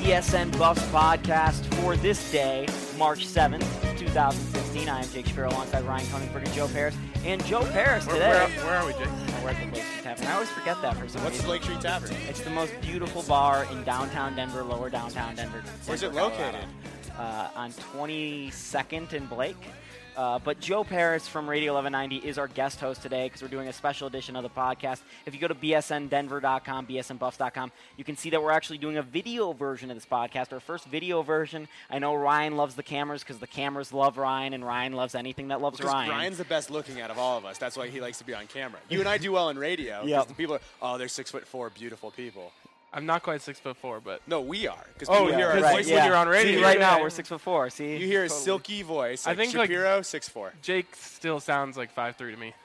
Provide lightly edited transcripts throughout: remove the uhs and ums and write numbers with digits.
BSN Buffs podcast for this day, March 7th, 2016. I am Jake Shapiro alongside Ryan Koenigsberg and Joe Paris. And Joe Paris today. Where are we, Jake? We're at the Lake Street Tavern. I always forget that for some reason. What's the Lake Street Tavern? It's the most beautiful bar in downtown Denver, lower downtown Denver. Where's it located? On 22nd and Blake. But Joe Paris from Radio 1190 is our guest host today because we're doing a special edition of the podcast. If you go to bsndenver.com, bsnbuffs.com, you can see that we're actually doing a video version of this podcast, our first video version. I know Ryan loves the cameras because the cameras love Ryan, and Ryan loves anything that loves Ryan. Ryan's the best looking out of all of us. That's why he likes to be on camera. You and I do well in radio. Yep. The people are, they're 6'4", beautiful people. I'm not quite 6'4", but No, we are. Oh, people hear our right, voice when you're on radio. See, right now Yeah. we're 6'4". See, You hear a silky voice. I think, Shapiro, 6'4". Jake still sounds like 5'3" to me.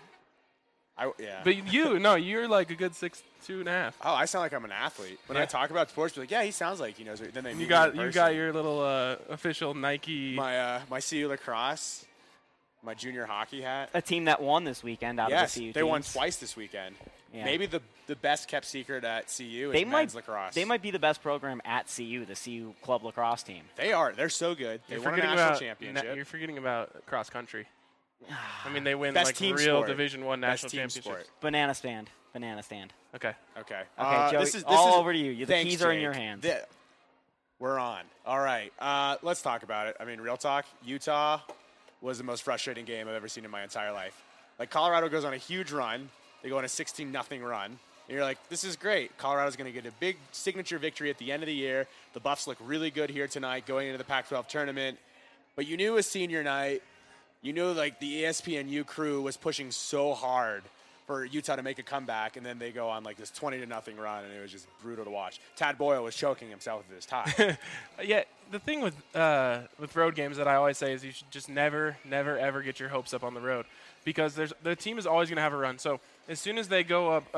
Yeah. But you're like a good 6'2.5". Oh, I sound like I'm an athlete. When I talk about sports, be like, yeah, he sounds like he knows. Then they You got your little official Nike. my CU lacrosse, my junior hockey hat. a team that won this weekend out Yes, of the CU they won teams. twice this weekend. Yeah. Maybe the best kept secret at CU They is men's lacrosse. They might be the best program at CU, the CU club lacrosse team. They are. They're so good. They You're won a forgetting national about championship. You're forgetting about cross country. I mean, they win Best like team real sport. Division I national Best team championships. sport. Banana stand. Okay. Okay. Okay, Joey, this is all over to you. The thanks, keys are in Jake. your hands. We're on. All right. Let's talk about it. I mean, real talk. Utah was the most frustrating game I've ever seen in my entire life. Like, Colorado goes on a huge run. They go on a 16-0 run. And you're like, this is great. Colorado's going to get a big signature victory at the end of the year. The Buffs look really good here tonight going into the Pac-12 tournament. But you knew it was senior night. You knew, like, the ESPNU crew was pushing so hard for Utah to make a comeback, and then they go on, like, this 20-0 run, and it was just brutal to watch. Tad Boyle was choking himself with his tie. Yeah, the thing with road games that I always say is you should just never, ever get your hopes up on the road because the team is always going to have a run. So as soon as they go up,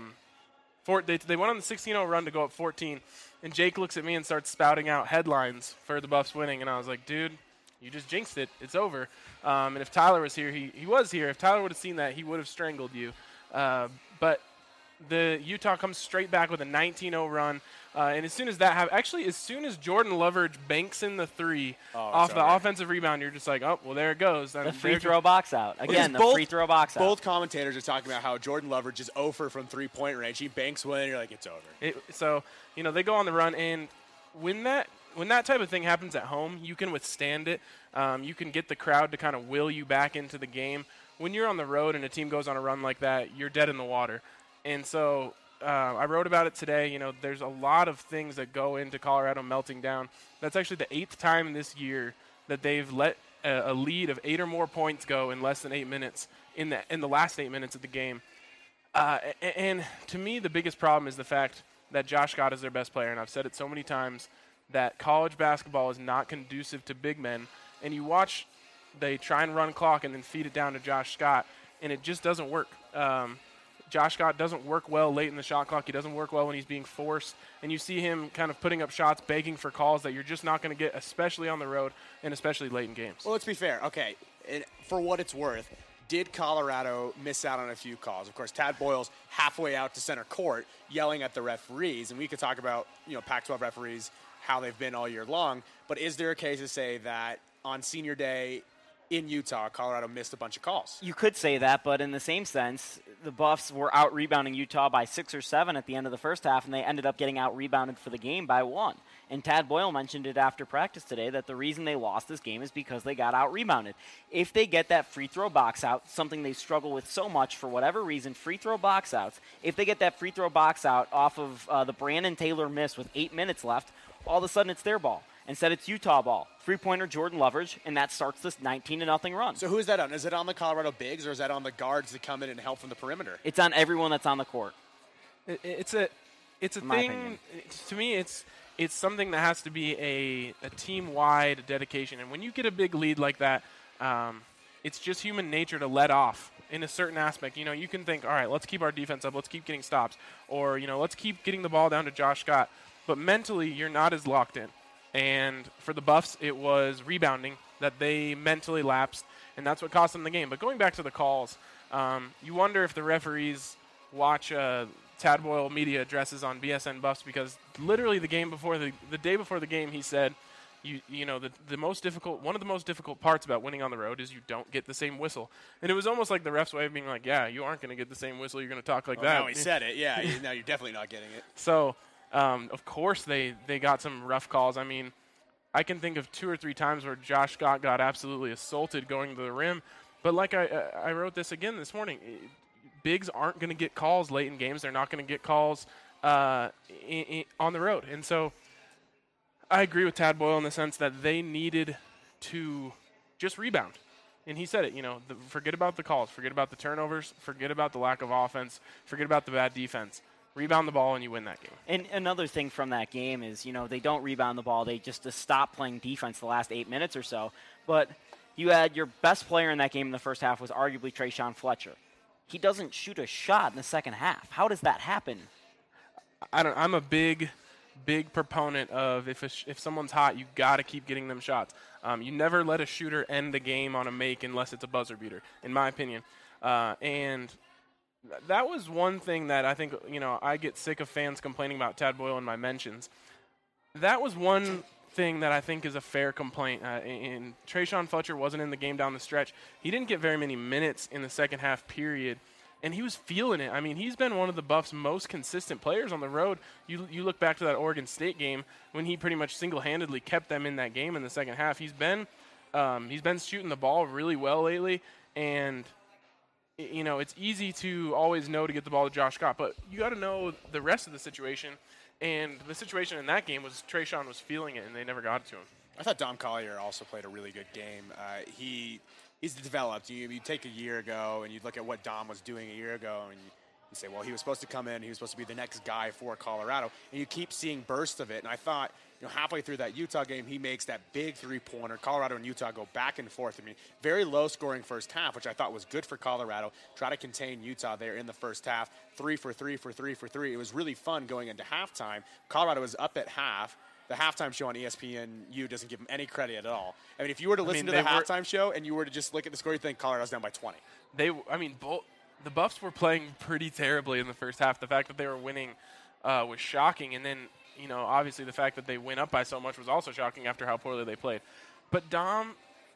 they went on the 16-0 run to go up 14, and Jake looks at me and starts spouting out headlines for the Buffs winning, and I was like, dude, you just jinxed it. It's over. And if Tyler was here, he was here. If Tyler would have seen that, he would have strangled you. But the Utah comes straight back with a 19-0 run. And as soon as that happens, actually, as soon as Jordan Loveridge banks in the three off the offensive rebound, you're just like, oh, well, there it goes. The free throw box out. Again, the free throw box out. Both commentators are talking about how Jordan Loveridge is 0 from three-point range. He banks one, and you're like, it's over. So, they go on the run, and when that type of thing happens at home, you can withstand it. You can get the crowd to kind of will you back into the game. When you're on the road and a team goes on a run like that, you're dead in the water. And so I wrote about it today. There's a lot of things that go into Colorado melting down. That's actually the 8th time this year that they've let a lead of 8 or more points go in less than 8 minutes in the last 8 minutes of the game. And to me, the biggest problem is the fact that Josh Scott is their best player. And I've said it so many times that college basketball is not conducive to big men. And you watch, they try and run clock and then feed it down to Josh Scott, and it just doesn't work. Josh Scott doesn't work well late in the shot clock. He doesn't work well when he's being forced. And you see him kind of putting up shots, begging for calls that you're just not going to get, especially on the road and especially late in games. Well, let's be fair. Okay, and for what it's worth, did Colorado miss out on a few calls? Of course, Tad Boyle's halfway out to center court yelling at the referees, and we could talk about Pac-12 referees, how they've been all year long. But is there a case to say that on senior day in Utah, Colorado missed a bunch of calls? You could say that, but in the same sense, the Buffs were out-rebounding Utah by 6 or 7 at the end of the first half, and they ended up getting out-rebounded for the game by 1. And Tad Boyle mentioned it after practice today that the reason they lost this game is because they got out-rebounded. If they get that free throw box out, something they struggle with so much for whatever reason, free throw box outs, if they get that free throw box out off of the Brandon Taylor miss with 8 minutes left, all of a sudden it's their ball. Instead, it's Utah ball. Three-pointer Jordan Loveridge, and that starts this 19-0 run. So who is that on? Is it on the Colorado bigs, or is that on the guards that come in and help from the perimeter? It's on everyone that's on the court. It's a thing. To me, it's something that has to be a team-wide dedication. And when you get a big lead like that, it's just human nature to let off in a certain aspect. You can think, all right, let's keep our defense up. Let's keep getting stops. Or, let's keep getting the ball down to Josh Scott. But mentally, you're not as locked in. And for the Buffs, it was rebounding that they mentally lapsed, and that's what cost them the game. But going back to the calls, you wonder if the referees watch Tad Boyle media addresses on BSN Buffs because literally the day before the game, he said, the most difficult, one of the most difficult parts about winning on the road is you don't get the same whistle. And it was almost like the ref's way of being like, yeah, you aren't going to get the same whistle. You're going to talk like that. Now he said it. Yeah, now you're definitely not getting it. So, of course, they got some rough calls. I mean, I can think of 2 or 3 times where Josh Scott got absolutely assaulted going to the rim. But like I wrote this again this morning, bigs aren't going to get calls late in games. They're not going to get calls on the road. And so I agree with Tad Boyle in the sense that they needed to just rebound. And he said it, forget about the calls, forget about the turnovers, forget about the lack of offense, forget about the bad defense. Rebound the ball and you win that game. And another thing from that game is, they don't rebound the ball. They just stop playing defense the last 8 minutes or so. But you had your best player in that game in the first half was arguably Trayshawn Fletcher. He doesn't shoot a shot in the second half. How does that happen? I'm a big proponent of if someone's hot, you got to keep getting them shots. You never let a shooter end the game on a make unless it's a buzzer beater, in my opinion. And that was one thing that I think, I get sick of fans complaining about Tad Boyle in my mentions. That was one thing that I think is a fair complaint. And Trayshawn Fletcher wasn't in the game down the stretch. He didn't get very many minutes in the second half period. And he was feeling it. I mean, he's been one of the Buffs' most consistent players on the road. You look back to that Oregon State game when he pretty much single-handedly kept them in that game in the second half. He's been shooting the ball really well lately, and it's easy to always know to get the ball to Josh Scott, but you got to know the rest of the situation. And the situation in that game was Trayshawn was feeling it, and they never got it to him. I thought Dom Collier also played a really good game. He's developed. You take a year ago and you look at what Dom was doing a year ago and you say, well, he was supposed to come in. He was supposed to be the next guy for Colorado. And you keep seeing bursts of it. And I thought, halfway through that Utah game, he makes that big three-pointer. Colorado and Utah go back and forth. I mean, very low-scoring first half, which I thought was good for Colorado. Try to contain Utah there in the first half. 3 for 3 for 3 for 3. It was really fun going into halftime. Colorado was up at half. The halftime show on ESPNU doesn't give them any credit at all. I mean, if you were to listen to the halftime show and you were to just look at the score, you think Colorado's down by 20. The Buffs were playing pretty terribly in the first half. The fact that they were winning was shocking. And then, obviously the fact that they went up by so much was also shocking after how poorly they played. But Dom,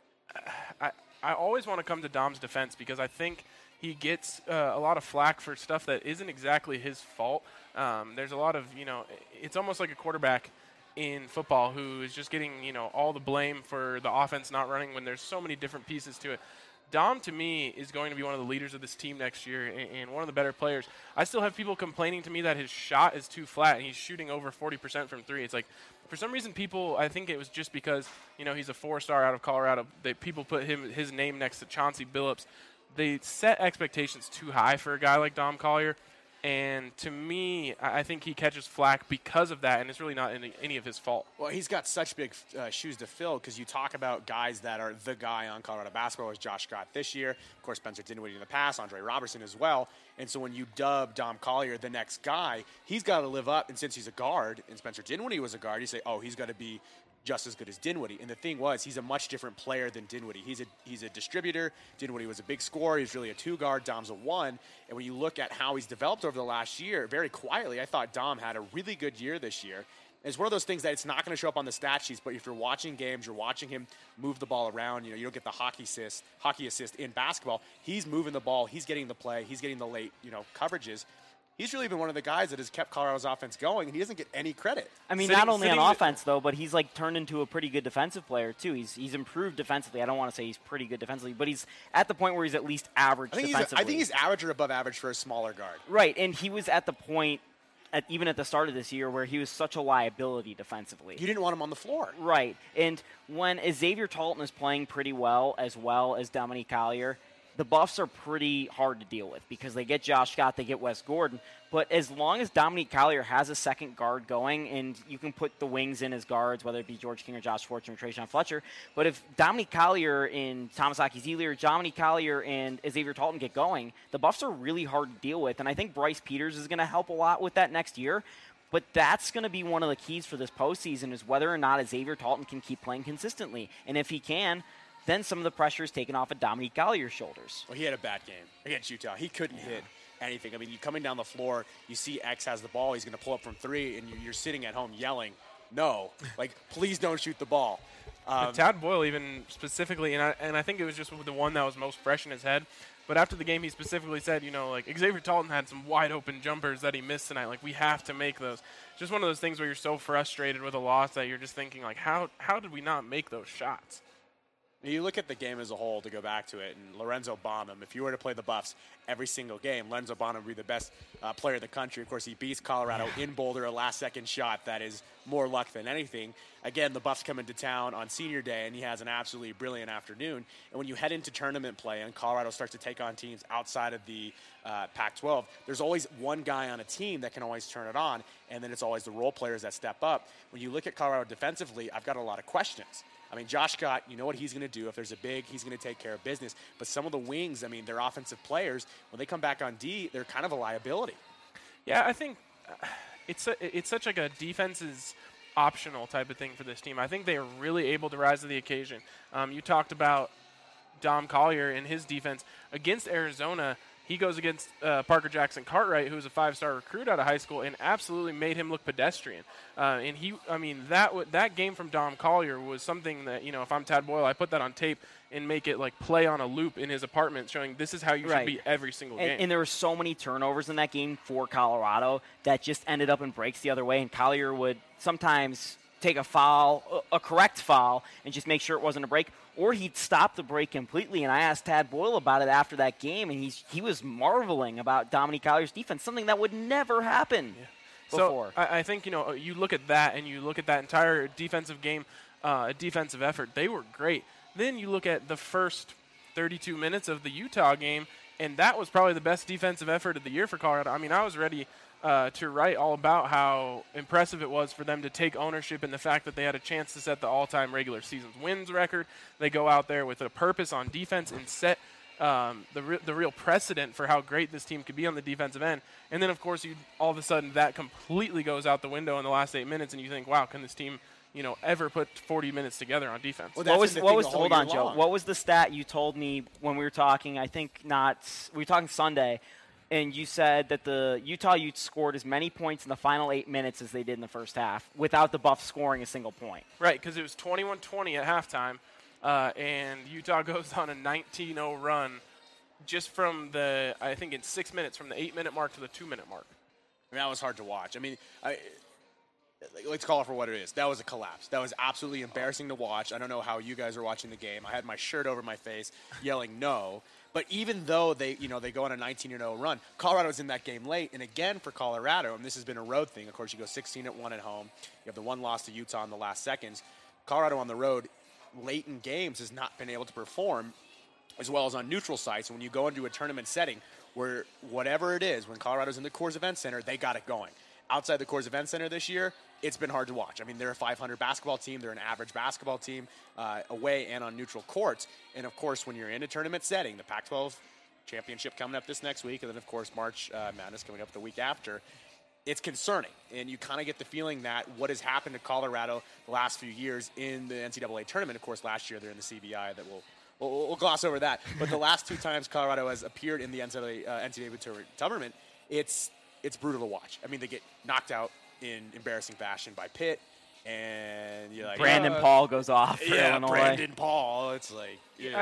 I always want to come to Dom's defense because I think he gets a lot of flack for stuff that isn't exactly his fault. There's a lot of, it's almost like a quarterback in football who is just getting, all the blame for the offense not running when there's so many different pieces to it. Dom, to me, is going to be one of the leaders of this team next year and one of the better players. I still have people complaining to me that his shot is too flat and he's shooting over 40% from three. It's like, for some reason, I think it was just because, he's a 4-star out of Colorado. People put his name next to Chauncey Billups. They set expectations too high for a guy like Dom Collier. And to me, I think he catches flack because of that, and it's really not any of his fault. Well, he's got such big shoes to fill because you talk about guys that are the guy on Colorado basketball is Josh Scott this year. Of course, Spencer Dinwiddie in the past, Andre Robertson as well. And so when you dub Dom Collier the next guy, he's got to live up. And since he's a guard and Spencer Dinwiddie was a guard, you say, oh, he's got to be just as good as Dinwiddie. And the thing was, he's a much different player than Dinwiddie. He's a distributor. Dinwiddie was a big scorer. He's really a 2-guard. Dom's a 1. And when you look at how he's developed over the last year, very quietly, I thought Dom had a really good year this year. And it's one of those things that it's not going to show up on the stat sheets, but if you're watching games, you're watching him move the ball around. You don't get the hockey assist in basketball. He's moving the ball. He's getting the play. He's getting the late, coverages. He's really been one of the guys that has kept Colorado's offense going, and he doesn't get any credit. I mean, not only on offense, though, but he's, turned into a pretty good defensive player, too. He's improved defensively. I don't want to say he's pretty good defensively, but he's at the point where he's at least average defensively. I think he's average or above average for a smaller guard. Right, and he was at the point, even at the start of this year, where he was such a liability defensively. You didn't want him on the floor. Right, and when Xavier Talton is playing pretty well as Dominique Collier, the Buffs are pretty hard to deal with because they get Josh Scott, they get Wes Gordon. But as long as Dominique Collier has a second guard going, and you can put the wings in as guards, whether it be George King or Josh Fortune or Trayshawn Fletcher, but if Dominique Collier and Thomas Aki-Zelia or Dominique Collier and Xavier Talton get going, the Buffs are really hard to deal with. And I think Bryce Peters is going to help a lot with that next year. But that's going to be one of the keys for this postseason is whether or not Xavier Talton can keep playing consistently. And if he can, then some of the pressure is taken off of Dominique Collier's shoulders. Well, he had a bad game against Utah. He couldn't hit anything. I mean, you coming down the floor, you see X has the ball, he's going to pull up from 3, and you're sitting at home yelling, no, like, please don't shoot the ball. Tad Boyle even specifically, and I think it was just the one that was most fresh in his head, but after the game he specifically said, like Xavier Talton had some wide open jumpers that he missed tonight. Like, we have to make those. Just one of those things where you're so frustrated with a loss that you're just thinking, like, how did we not make those shots? You look at the game as a whole, to go back to it, and Lorenzo Bonham, if you were to play the Buffs every single game, Lorenzo Bonham would be the best player in the country. Of course, he beats Colorado in Boulder, a last-second shot that is more luck than anything. Again, the Buffs come into town on senior day, and he has an absolutely brilliant afternoon. And when you head into tournament play and Colorado starts to take on teams outside of the Pac-12, there's always one guy on a team that can always turn it on, and then it's always the role players that step up. When you look at Colorado defensively, I've got a lot of questions. I mean, Josh Scott, you know what he's going to do. If there's a big, he's going to take care of business. But some of the wings, I mean, they're offensive players. When they come back on D, they're kind of a liability. Yeah, I think it's such like a defense is optional type of thing for this team. I think they are really able to rise to the occasion. You talked about Dom Collier and his defense against Arizona. He goes against Parker Jackson Cartwright, who was a 5-star recruit out of high school, and absolutely made him look pedestrian. That game from Dom Collier was something that, if I'm Tad Boyle, I put that on tape and make it like play on a loop in his apartment, showing this is how you should be every single game. And there were so many turnovers in that game for Colorado that just ended up in breaks the other way, and Collier would sometimes take a foul, a correct foul, and just make sure it wasn't a break, or he'd stop the break completely. And I asked Tad Boyle about it after that game, and he was marveling about Dominique Collier's defense, something that would never happen before. So I think, you look at that, and you look at that entire defensive game, defensive effort, they were great. Then you look at the first 32 minutes of the Utah game, and that was probably the best defensive effort of the year for Colorado. I mean, I was ready to write all about how impressive it was for them to take ownership in the fact that they had a chance to set the all-time regular season wins record. They go out there with a purpose on defense and set the real precedent for how great this team could be on the defensive end. And then, of course, all of a sudden that completely goes out the window in the last 8 minutes, and you think, wow, can this team ever put 40 minutes together on defense? Well, hold on, Joe. What was the stat you told me when we were talking? We were talking Sunday. And you said that the Utah Utes scored as many points in the final 8 minutes as they did in the first half without the Buffs scoring a single point. Right, because it was 21-20 at halftime, and Utah goes on a 19-0 run just from in 6 minutes, from the 8-minute mark to the 2-minute mark. I mean, that was hard to watch. I mean, let's call it for what it is. That was a collapse. That was absolutely embarrassing to watch. I don't know how you guys are watching the game. I had my shirt over my face yelling no. But even though they go on a 19-0 run, Colorado's in that game late. And again, for Colorado, and this has been a road thing, of course, you go 16-1 at home. You have the one loss to Utah in the last seconds. Colorado on the road, late in games, has not been able to perform as well as on neutral sites. When you go into a tournament setting where whatever it is, when Colorado's in the Coors Event Center, they got it going. Outside the Coors Event Center this year, it's been hard to watch. I mean, they're a 500 basketball team. They're an average basketball team away and on neutral courts. And, of course, when you're in a tournament setting, the Pac-12 championship coming up this next week, and then, of course, March Madness coming up the week after, it's concerning. And you kind of get the feeling that what has happened to Colorado the last few years in the NCAA tournament, of course, last year they're in the CBI, that we'll gloss over that. But the last two times Colorado has appeared in the NCAA tournament, it's brutal to watch. I mean, they get knocked out in embarrassing fashion by Pitt, and you're like, Brandon Paul goes off for Illinois. Brandon Paul. It's like,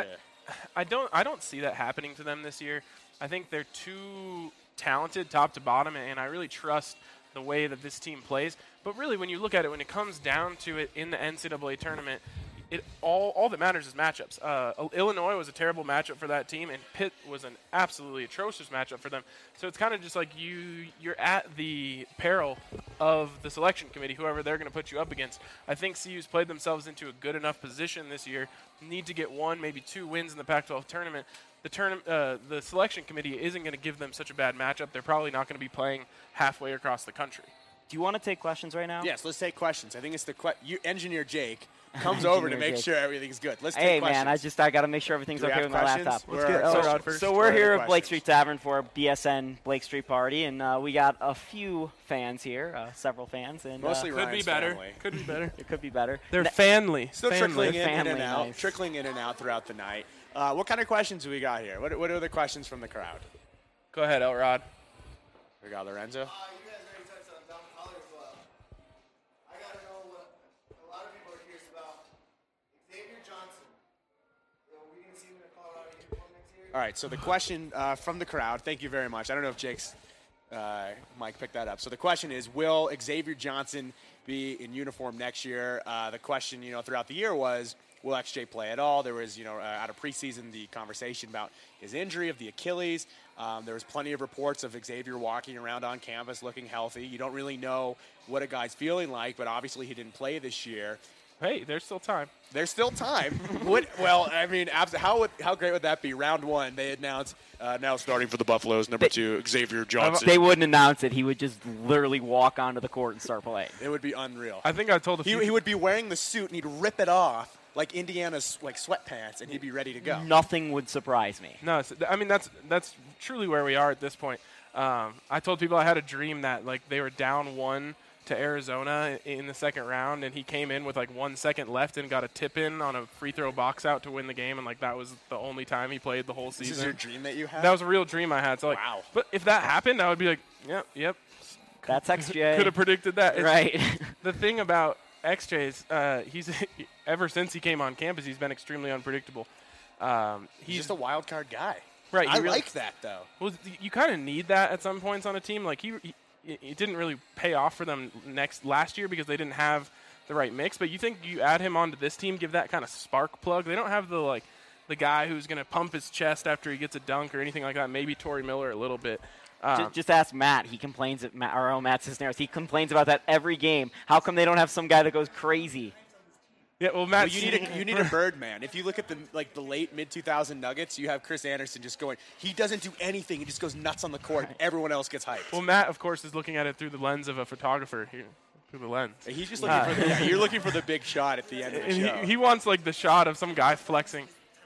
I don't see that happening to them this year. I think they're too talented top to bottom, and I really trust the way that this team plays. But really, when you look at it, when it comes down to it in the NCAA tournament, all that matters is matchups. Illinois was a terrible matchup for that team, and Pitt was an absolutely atrocious matchup for them. So it's kind of just like you're at the peril of the selection committee, whoever they're going to put you up against. I think CU's played themselves into a good enough position this year. Need to get 1, maybe 2 wins in the Pac-12 tournament. The selection committee isn't going to give them such a bad matchup. They're probably not going to be playing halfway across the country. Do you want to take questions right now? Yes, let's take questions. I think it's Engineer Jake comes over to make sure everything's good. Let's take questions. Man, I got to make sure everything's okay with my laptop. So we're here at Blake Street Tavern for BSN Blake Street Party, and we got a few fans here, several fans. And mostly Ryan's family. Could be better. It could be better. They're family. Still trickling in and out. Nice. Trickling in and out throughout the night. What kind of questions do we got here? What are the questions from the crowd? Go ahead, Elrod. We got Lorenzo. You guys already touched on Dom Collier as well. I got to know what a lot of people are curious about. Xavier Johnson. Are we going to see him in a Colorado uniform next year? All right, so the question from the crowd, thank you very much. I don't know if Jake's Mike picked that up. So the question is, will Xavier Johnson be in uniform next year? The question, throughout the year was, will XJ play at all? There was, out of preseason, the conversation about his injury of the Achilles. There was plenty of reports of Xavier walking around on campus looking healthy. You don't really know what a guy's feeling like, but obviously he didn't play this year. Hey, there's still time. There's still time. How great would that be? Round one, they announce now starting for the Buffaloes, number 2, Xavier Johnson. They wouldn't announce it. He would just literally walk onto the court and start playing. It would be unreal. I think I told a few. He would be wearing the suit and he'd rip it off like Indiana's sweatpants, and he'd be ready to go. Nothing would surprise me. No, that's truly where we are at this point. I told people I had a dream that they were down 1 to Arizona in the second round, and he came in with 1 second left and got a tip in on a free throw box out to win the game, and that was the only time he played the whole season. This is your dream that you had? That was a real dream I had. So wow. But if that happened, I would be like, yep. That's XJ. Could have predicted that. Right. The thing about XJ is he's ever since he came on campus, he's been extremely unpredictable. He's just a wild card guy. Right. I like that, though. Well, you kind of need that at some points on a team. It didn't really pay off for them last year because they didn't have the right mix. But you think you add him onto this team, give that kind of spark plug. They don't have the guy who's going to pump his chest after he gets a dunk or anything like that. Maybe Torrey Miller a little bit. Just ask Matt. He complains at our own Matt Cisneros. He complains about that every game. How come they don't have some guy that goes crazy? Yeah, well, Matt, you need a Birdman. If you look at the late mid-2000 Nuggets, you have Chris Anderson just going. He doesn't do anything. He just goes nuts on the court. And everyone else gets hyped. Well, Matt, of course, is looking at it through the lens of a photographer here. Through the lens. He's just looking for you're looking for the big shot at the end of the show. He wants the shot of some guy flexing.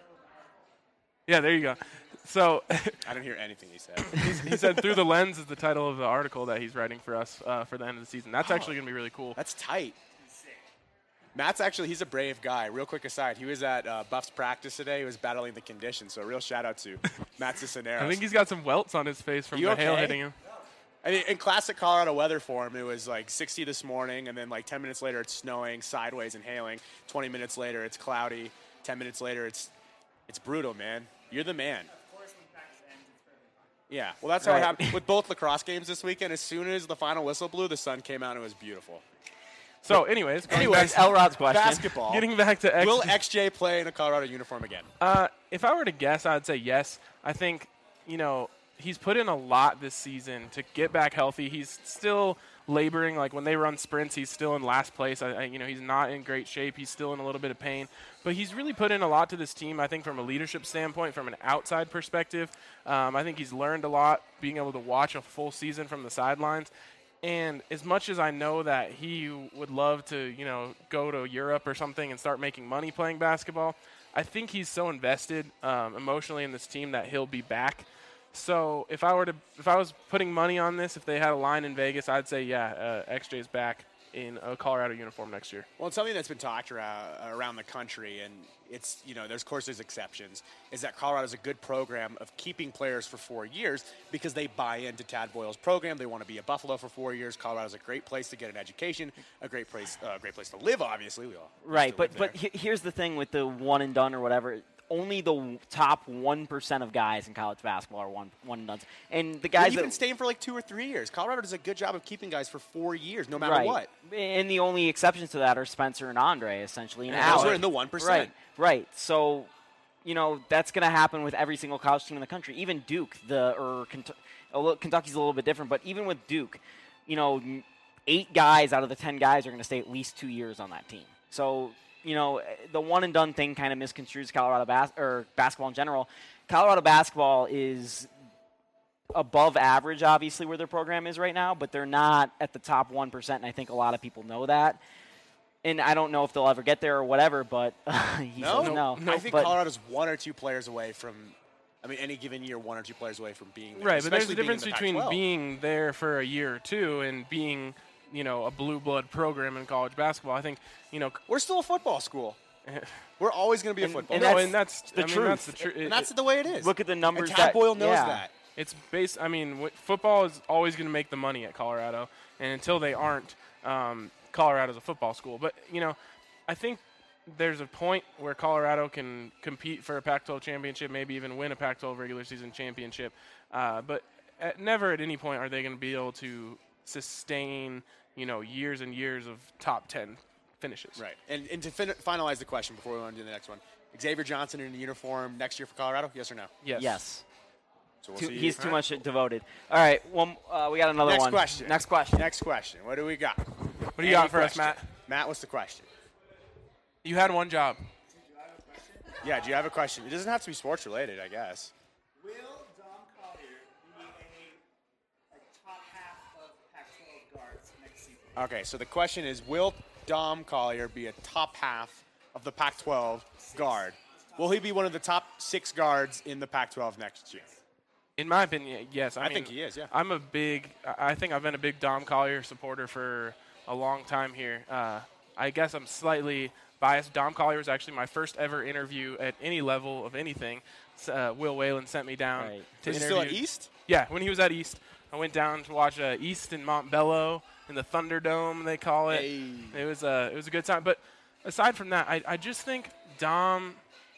Yeah, there you go. So I didn't hear anything he said. He said "Through the Lens" is the title of the article that he's writing for us for the end of the season. That's actually going to be really cool. That's tight. Matt's he's a brave guy. Real quick aside, he was at Buffs practice today. He was battling the conditions, so a real shout-out to Matt Cisneros. I think he's got some welts on his face from the hail hitting him. I mean, in classic Colorado weather form, it was 60 this morning, and then 10 minutes later it's snowing, sideways and hailing. 20 minutes later it's cloudy. 10 minutes later it's brutal, man. You're the man. Yeah, well, that's how it happened with both lacrosse games this weekend. As soon as the final whistle blew, the sun came out and it was beautiful. So, anyways, Elrod's question. Basketball. Getting back to XJ. Will XJ play in a Colorado uniform again? If I were to guess, I'd say yes. I think, he's put in a lot this season to get back healthy. He's still laboring. When they run sprints, he's still in last place. He's not in great shape. He's still in a little bit of pain. But he's really put in a lot to this team, I think, from a leadership standpoint, from an outside perspective. I think he's learned a lot, being able to watch a full season from the sidelines. And as much as I know that he would love to, go to Europe or something and start making money playing basketball, I think he's so invested emotionally in this team that he'll be back. So if I was putting money on this, if they had a line in Vegas, I'd say XJ's back in a Colorado uniform next year. Well, it's something that's been talked around the country, and it's there's exceptions, is that Colorado's a good program of keeping players for 4 years because they buy into Tad Boyle's program. They want to be a Buffalo for 4 years. Colorado's a great place to get an education, a great place to live. Obviously, we all right. But here's the thing with the one and done or whatever. Only the top 1% of guys in college basketball are one and done. And the guys that even staying for 2 or 3 years. Colorado does a good job of keeping guys for 4 years, no matter right. what. And the only exceptions to that are Spencer and Andre, essentially. And those are in the 1%. Right. So, that's going to happen with every single college team in the country. Even Duke, Kentucky's a little bit different, but even with Duke, 8 guys out of the 10 guys are going to stay at least 2 years on that team. So, the one and done thing kind of misconstrues Colorado basketball in general. Colorado basketball is above average, obviously, where their program is right now, but they're not at the top 1%, and I think a lot of people know that. And I don't know if they'll ever get there or whatever, but he says no. I think Colorado's 1 or 2 players away from, any given year, 1 or 2 players away from being there. Right, but there's a difference between Pac-12. Being there for a year or two and being – a blue blood program in college basketball. I think, we're still a football school. We're always going to be a football. And that's the truth. That's the truth. And that's the way it is. Look at the numbers. And Tad Boyle knows that. it's based. I mean, football is always going to make the money at Colorado, and until they aren't, Colorado's a football school. But I think there's a point where Colorado can compete for a Pac-12 championship, maybe even win a Pac-12 regular season championship. But never at any point are they going to be able to sustain, years and years of top 10 finishes. Right. And to finalize the question before we want to do the next one, Xavier Johnson in a uniform next year for Colorado, yes or no? Yes. So we'll see. He's too much devoted. All right, well, we got another one. Next question. Next question. What do we got? What do you got for us, Matt? Matt, what's the question? You had one job. Yeah, do you have a question? It doesn't have to be sports related, I guess. Will Dom Collier be a top half of Pac-12 guards next season? Okay, so the question is, will Dom Collier be a top half of the Pac-12 guard? Will he be one of the top 6 guards in the Pac-12 next year? In my opinion, yes. I think he is, yeah. I think I've been a big Dom Collier supporter for a long time here. I guess I'm slightly biased. Dom Collier was actually my first ever interview at any level of anything. Will Whalen sent me down to Was he interview. still at East? Yeah, when he was at East. I went down to watch East in Montbello in the Thunderdome, they call it. Hey. It was a good time. But aside from that, I just think Dom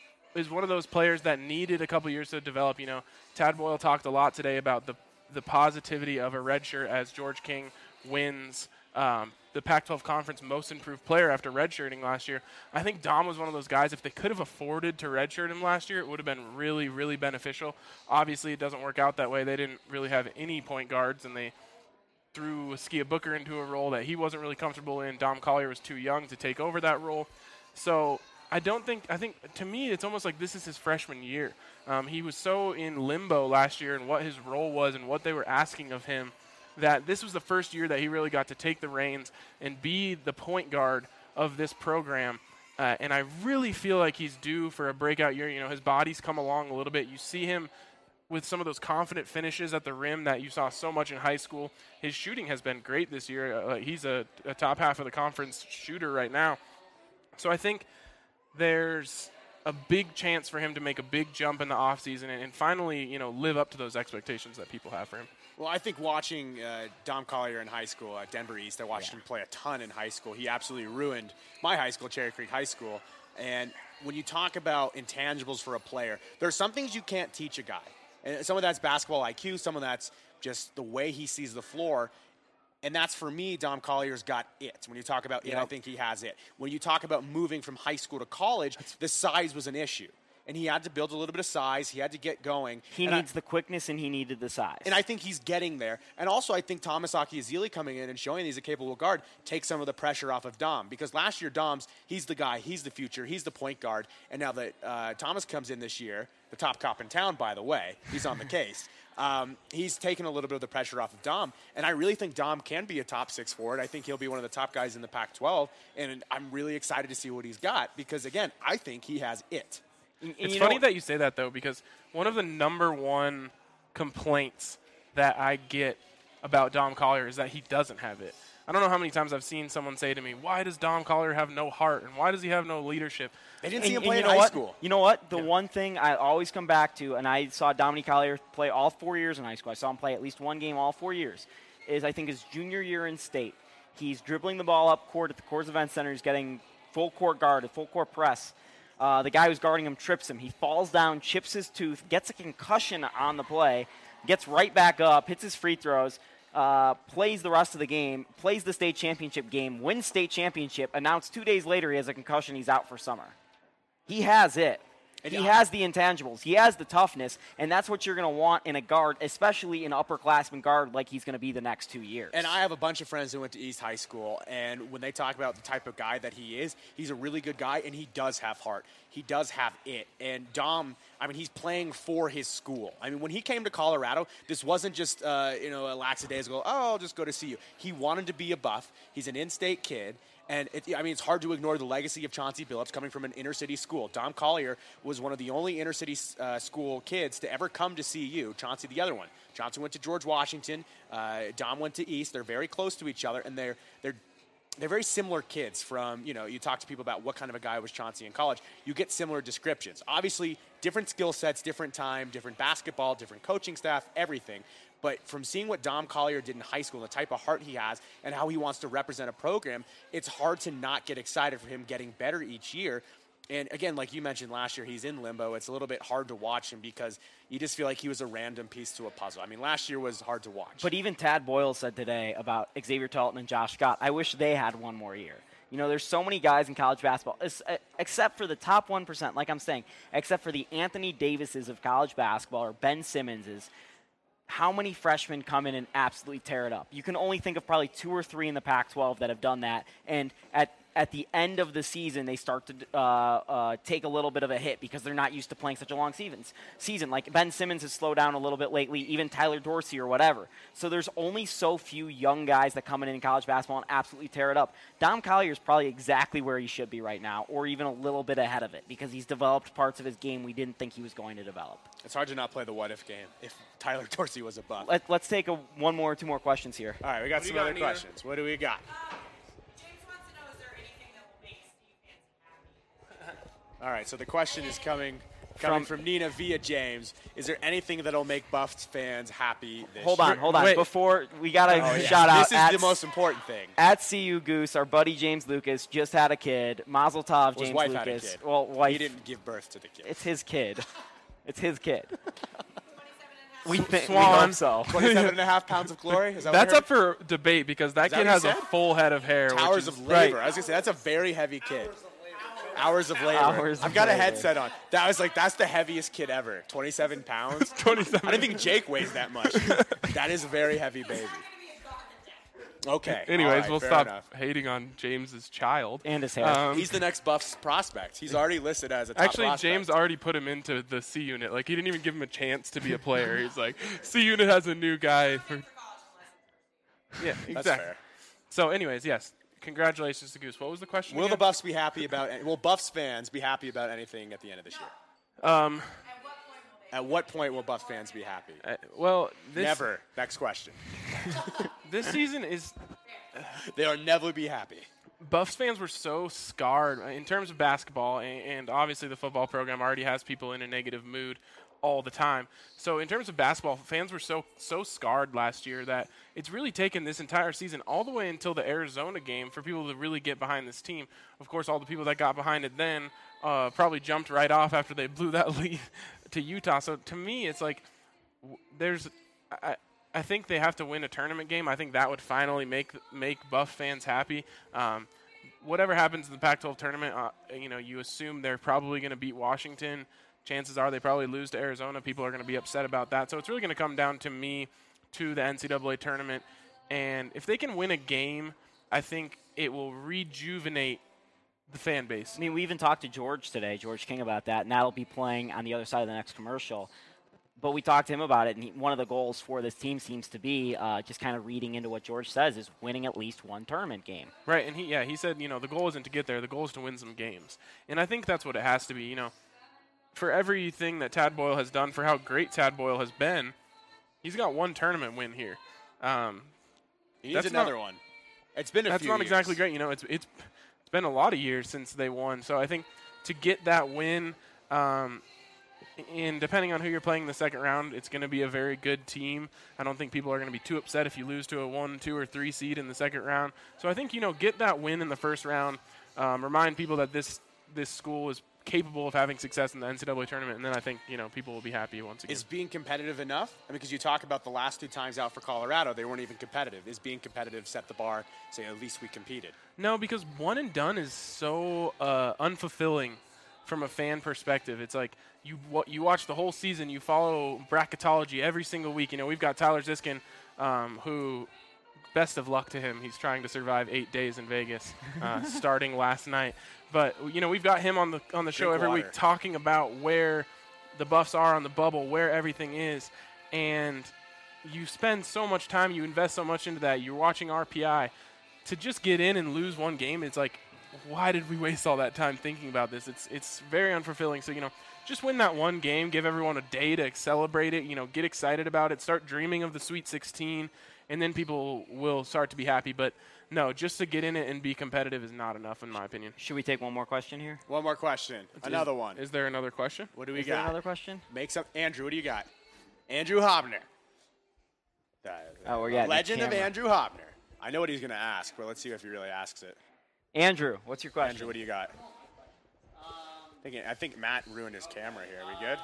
is one of those players that needed a couple years to develop. Tad Boyle talked a lot today about the positivity of a redshirt as George King wins the Pac-12 Conference Most Improved Player after redshirting last year. I think Dom was one of those guys, if they could have afforded to redshirt him last year, it would have been really, really beneficial. Obviously, it doesn't work out that way. They didn't really have any point guards, and they threw Skia Booker into a role that he wasn't really comfortable in. Dom Collier was too young to take over that role. So I think to me, it's almost like this is his freshman year. He was so in limbo last year and what his role was and what they were asking of him that this was the first year that he really got to take the reins and be the point guard of this program. And I really feel like he's due for a breakout year. His body's come along a little bit. You see him with some of those confident finishes at the rim that you saw so much in high school. His shooting has been great this year. He's a top half of the conference shooter right now. So I think there's a big chance for him to make a big jump in the offseason and finally, live up to those expectations that people have for him. Well, I think watching Dom Collier in high school at Denver East, I watched him play a ton in high school. He absolutely ruined my high school, Cherry Creek High School. And when you talk about intangibles for a player, there are some things you can't teach a guy. And some of that's basketball IQ, some of that's just the way he sees the floor. And that's, for me, Dom Collier's got it. When you talk about it, I think he has it. When you talk about moving from high school to college, the size was an issue. And he had to build a little bit of size. He had to get going. He needs the quickness, and he needed the size. And I think he's getting there. And also, I think Thomas Akiazili coming in and showing he's a capable guard takes some of the pressure off of Dom. Because last year, he's the guy. He's the future. He's the point guard. And now that Thomas comes in this year, the top cop in town, by the way, he's on the case. He's taken a little bit of the pressure off of Dom. And I really think Dom can be a top 6 forward. I think he'll be one of the top guys in the Pac-12. And I'm really excited to see what he's got. Because, again, I think he has it. It's funny that you say that, though, because one of the number one complaints that I get about Dom Collier is that he doesn't have it. I don't know how many times I've seen someone say to me, why does Dom Collier have no heart, and why does he have no leadership? They didn't see him play in high school. You know what? The one thing I always come back to, and I saw Dominique Collier play all 4 years in high school. I saw him play at least one game all 4 years, is I think his junior year in state. He's dribbling the ball up court at the Coors Event Center. He's getting full court guard, a full court press. The guy who's guarding him trips him. He falls down, chips his tooth, gets a concussion on the play, gets right back up, hits his free throws, plays the rest of the game, plays the state championship game, wins state championship, announced 2 days later he has a concussion, he's out for summer. He has it. He has the intangibles. He has the toughness, and that's what you're going to want in a guard, especially an upperclassman guard like he's going to be the next 2 years. And I have a bunch of friends who went to East High School, and when they talk about the type of guy that he is, he's a really good guy, and he does have heart. He does have it. And Dom, he's playing for his school. When he came to Colorado, this wasn't just, a lackadaisical, I'll just go to CU. He wanted to be a Buff. He's an in-state kid. And it's hard to ignore the legacy of Chauncey Billups coming from an inner-city school. Dom Collier was one of the only inner-city school kids to ever come to CU. Chauncey, the other one. Chauncey went to George Washington. Dom went to East. They're very close to each other, and they're they're very similar kids from, you talk to people about what kind of a guy was Chauncey in college. You get similar descriptions. Obviously, different skill sets, different time, different basketball, different coaching staff, everything. But from seeing what Dom Collier did in high school, and the type of heart he has, and how he wants to represent a program, it's hard to not get excited for him getting better each year. And again, like you mentioned last year, he's in limbo. It's a little bit hard to watch him because you just feel like he was a random piece to a puzzle. I mean, last year was hard to watch. But even Tad Boyle said today about Xavier Talton and Josh Scott, I wish they had one more year. There's so many guys in college basketball, except for the top 1%, like I'm saying, except for the Anthony Davises of college basketball or Ben Simmonses. How many freshmen come in and absolutely tear it up? You can only think of probably 2 or 3 in the Pac-12 that have done that. And at the end of the season, they start to take a little bit of a hit because they're not used to playing such a long season. Like Ben Simmons has slowed down a little bit lately, even Tyler Dorsey or whatever. So there's only so few young guys that come in college basketball and absolutely tear it up. Dom Collier is probably exactly where he should be right now, or even a little bit ahead of it, because he's developed parts of his game we didn't think he was going to develop. It's hard to not play the what-if game if Tyler Dorsey was a Buff. Let's take 1 more or 2 more questions here. All right, we got some other questions. What do we got? James wants to know, is there anything that will make Steve Fancy happy? All right, so the question is coming from Nina via James. Is there anything that'll make Buffs fans happy this Hold year? on. Wait. Before we got to shout out. This is the most important thing. At CU Goose, our buddy James Lucas just had a kid. Mazel tov, James His wife Lucas. had a kid. Well, wife. He didn't give birth to the kid. It's his kid. It's his kid. 27.5. We Swan. hope so. 27.5 pounds of glory? Is that That's what up for debate because that that kid what has he a said? full head of hair. Towers which is, of labor. I was going to say, that's a very heavy kid. Hours of labor. Hours of I've got a labor. headset on. That's the heaviest kid ever. 27 pounds. 27. I didn't think Jake weighs that much. That is a very heavy baby. Okay. Anyways, all right, we'll fair stop enough. hating on James's child. And his hair. He's the next Buffs prospect. He's already listed as a top Actually, prospect. James already put him into the C unit. Like, he didn't even give him a chance to be a player. He's like, C unit has a new guy. Yeah, exactly. That's fair. So, anyways, yes. Congratulations to Goose. What was the question Will again? the Buffs be happy about? Will Buffs fans be happy about anything at the end of this year? At what point will Buffs fans be happy? Well, Never. Next question. This season is They'll never be happy. Buffs fans were so scarred in terms of basketball, and obviously the football program already has people in a negative mood all the time. So in terms of basketball, fans were so scarred last year that it's really taken this entire season all the way until the Arizona game for people to really get behind this team. Of course, all the people that got behind it then probably jumped right off after they blew that lead to Utah. So to me, it's like I think they have to win a tournament game. I think that would finally make Buff fans happy. Whatever happens in the Pac-12 tournament, you assume they're probably going to beat Washington. Chances are they probably lose to Arizona. People are going to be upset about that. So it's really going to come down to the NCAA tournament. And if they can win a game, I think it will rejuvenate the fan base. I mean, we even talked to George today, George King, about that, and that'll be playing on the other side of the next commercial. But we talked to him about it, and one of the goals for this team seems to be just kind of reading into what George says is winning at least one tournament game. Right, and he said, the goal isn't to get there. The goal is to win some games. And I think that's what it has to be, For everything that Tad Boyle has done, for how great Tad Boyle has been, he's got one tournament win here. He needs another one. It's been a few years. That's not exactly great. It's been a lot of years since they won. So I think to get that win, and depending on who you're playing in the second round, it's going to be a very good team. I don't think people are going to be too upset if you lose to a 1, 2, or 3 seed in the second round. So I think, get that win in the first round, remind people that this school is capable of having success in the NCAA tournament, and then I think, people will be happy once again. Is being competitive enough? I mean, because you talk about the last 2 times out for Colorado, they weren't even competitive. Is being competitive set the bar, say at least we competed? No, because one and done is so unfulfilling from a fan perspective. It's like you watch the whole season, you follow bracketology every single week. We've got Tyler Ziskin, who, best of luck to him. He's trying to survive 8 days in Vegas, starting last night. But we've got him on the show every week talking about where the Buffs are on the bubble, where everything is, and you spend so much time, you invest so much into that. You're watching RPI to just get in and lose one game. It's like, why did we waste all that time thinking about this? It's very unfulfilling. So just win that one game, give everyone a day to celebrate it, get excited about it, start dreaming of the Sweet 16, and then people will start to be happy. But no, just to get in it and be competitive is not enough, in my opinion. Should we take one more question here? One more question. Another one. Is there another question? What do we Is got? there another question? Andrew, what do you got? Andrew Hobner. Oh, we got Legend of Andrew Hobner. I know what he's going to ask, but let's see if he really asks it. Andrew, what's your question? Andrew, what do you got? I think Matt ruined his camera here. Are we good?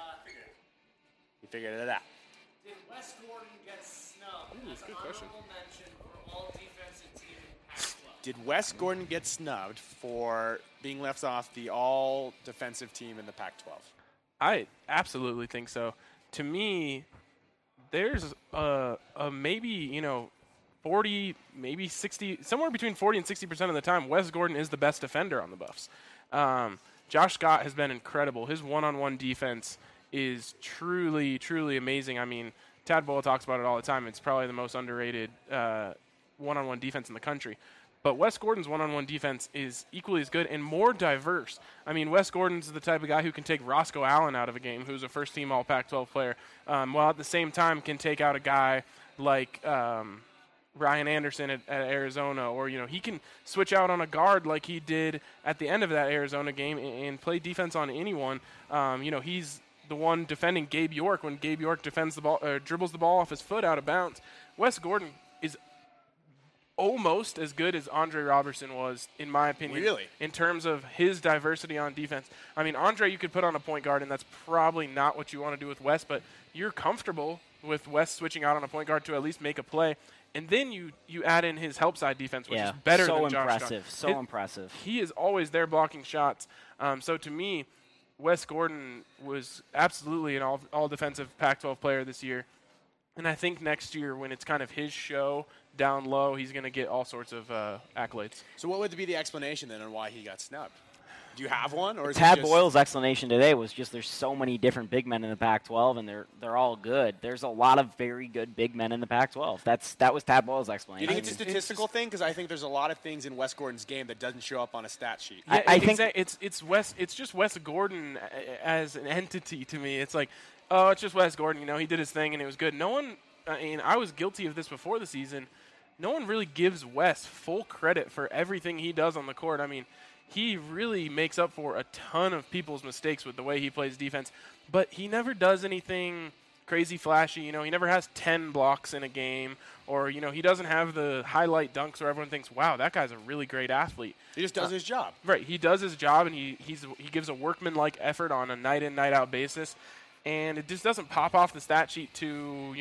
He figured it out. Did Wes Gordon get snubbed as an honorable mention for all defensive team in Pac-12? Did Wes Gordon get snubbed for being left off the all-defensive team in the Pac-12? I absolutely think so. To me, there's a maybe, 40, maybe 60, somewhere between 40 and 60% of the time, Wes Gordon is the best defender on the Buffs. Josh Scott has been incredible. His one-on-one defense is truly, truly amazing. I mean, Tad Boyle talks about it all the time. It's probably the most underrated one-on-one defense in the country. But Wes Gordon's one-on-one defense is equally as good and more diverse. I mean, Wes Gordon's the type of guy who can take Roscoe Allen out of a game, who's a first-team All-Pac-12 player, while at the same time can take out a guy like Ryan Anderson at Arizona, or he can switch out on a guard like he did at the end of that Arizona game and play defense on anyone. He's the one defending Gabe York when Gabe York defends the ball, dribbles the ball off his foot out of bounds. Wes Gordon is almost as good as Andre Robertson was, in my opinion. Really? In terms of his diversity on defense. I mean, Andre you could put on a point guard, and that's probably not what you want to do with Wes, but you're comfortable with Wes switching out on a point guard to at least make a play. And then you add in his help side defense, which is better than Josh Scott. So impressive. He is always there blocking shots. So to me, Wes Gordon was absolutely an all-defensive Pac-12 player this year. And I think next year, when it's kind of his show down low, he's going to get all sorts of accolades. So what would be the explanation then on why he got snubbed? Do you have one, or is Tad it just Boyle's explanation today was just there's so many different big men in the Pac-12, and they're all good. There's a lot of very good big men in the Pac-12. That was Tad Boyle's Do you explanation. think it's a statistical thing? Because I think there's a lot of things in Wes Gordon's game that doesn't show up on a stat sheet. Yeah, I think it's Wes. It's just Wes Gordon as an entity to me. It's like, oh, it's just Wes Gordon. He did his thing and it was good. No one. I mean, I was guilty of this before the season. No one really gives Wes full credit for everything he does on the court. I mean, he really makes up for a ton of people's mistakes with the way he plays defense, but he never does anything crazy flashy. He never has 10 blocks in a game, or, he doesn't have the highlight dunks where everyone thinks, wow, that guy's a really great athlete. He just does his job. Right. He does his job, and he gives a workman-like effort on a night-in, night-out basis, and it just doesn't pop off the stat sheet to,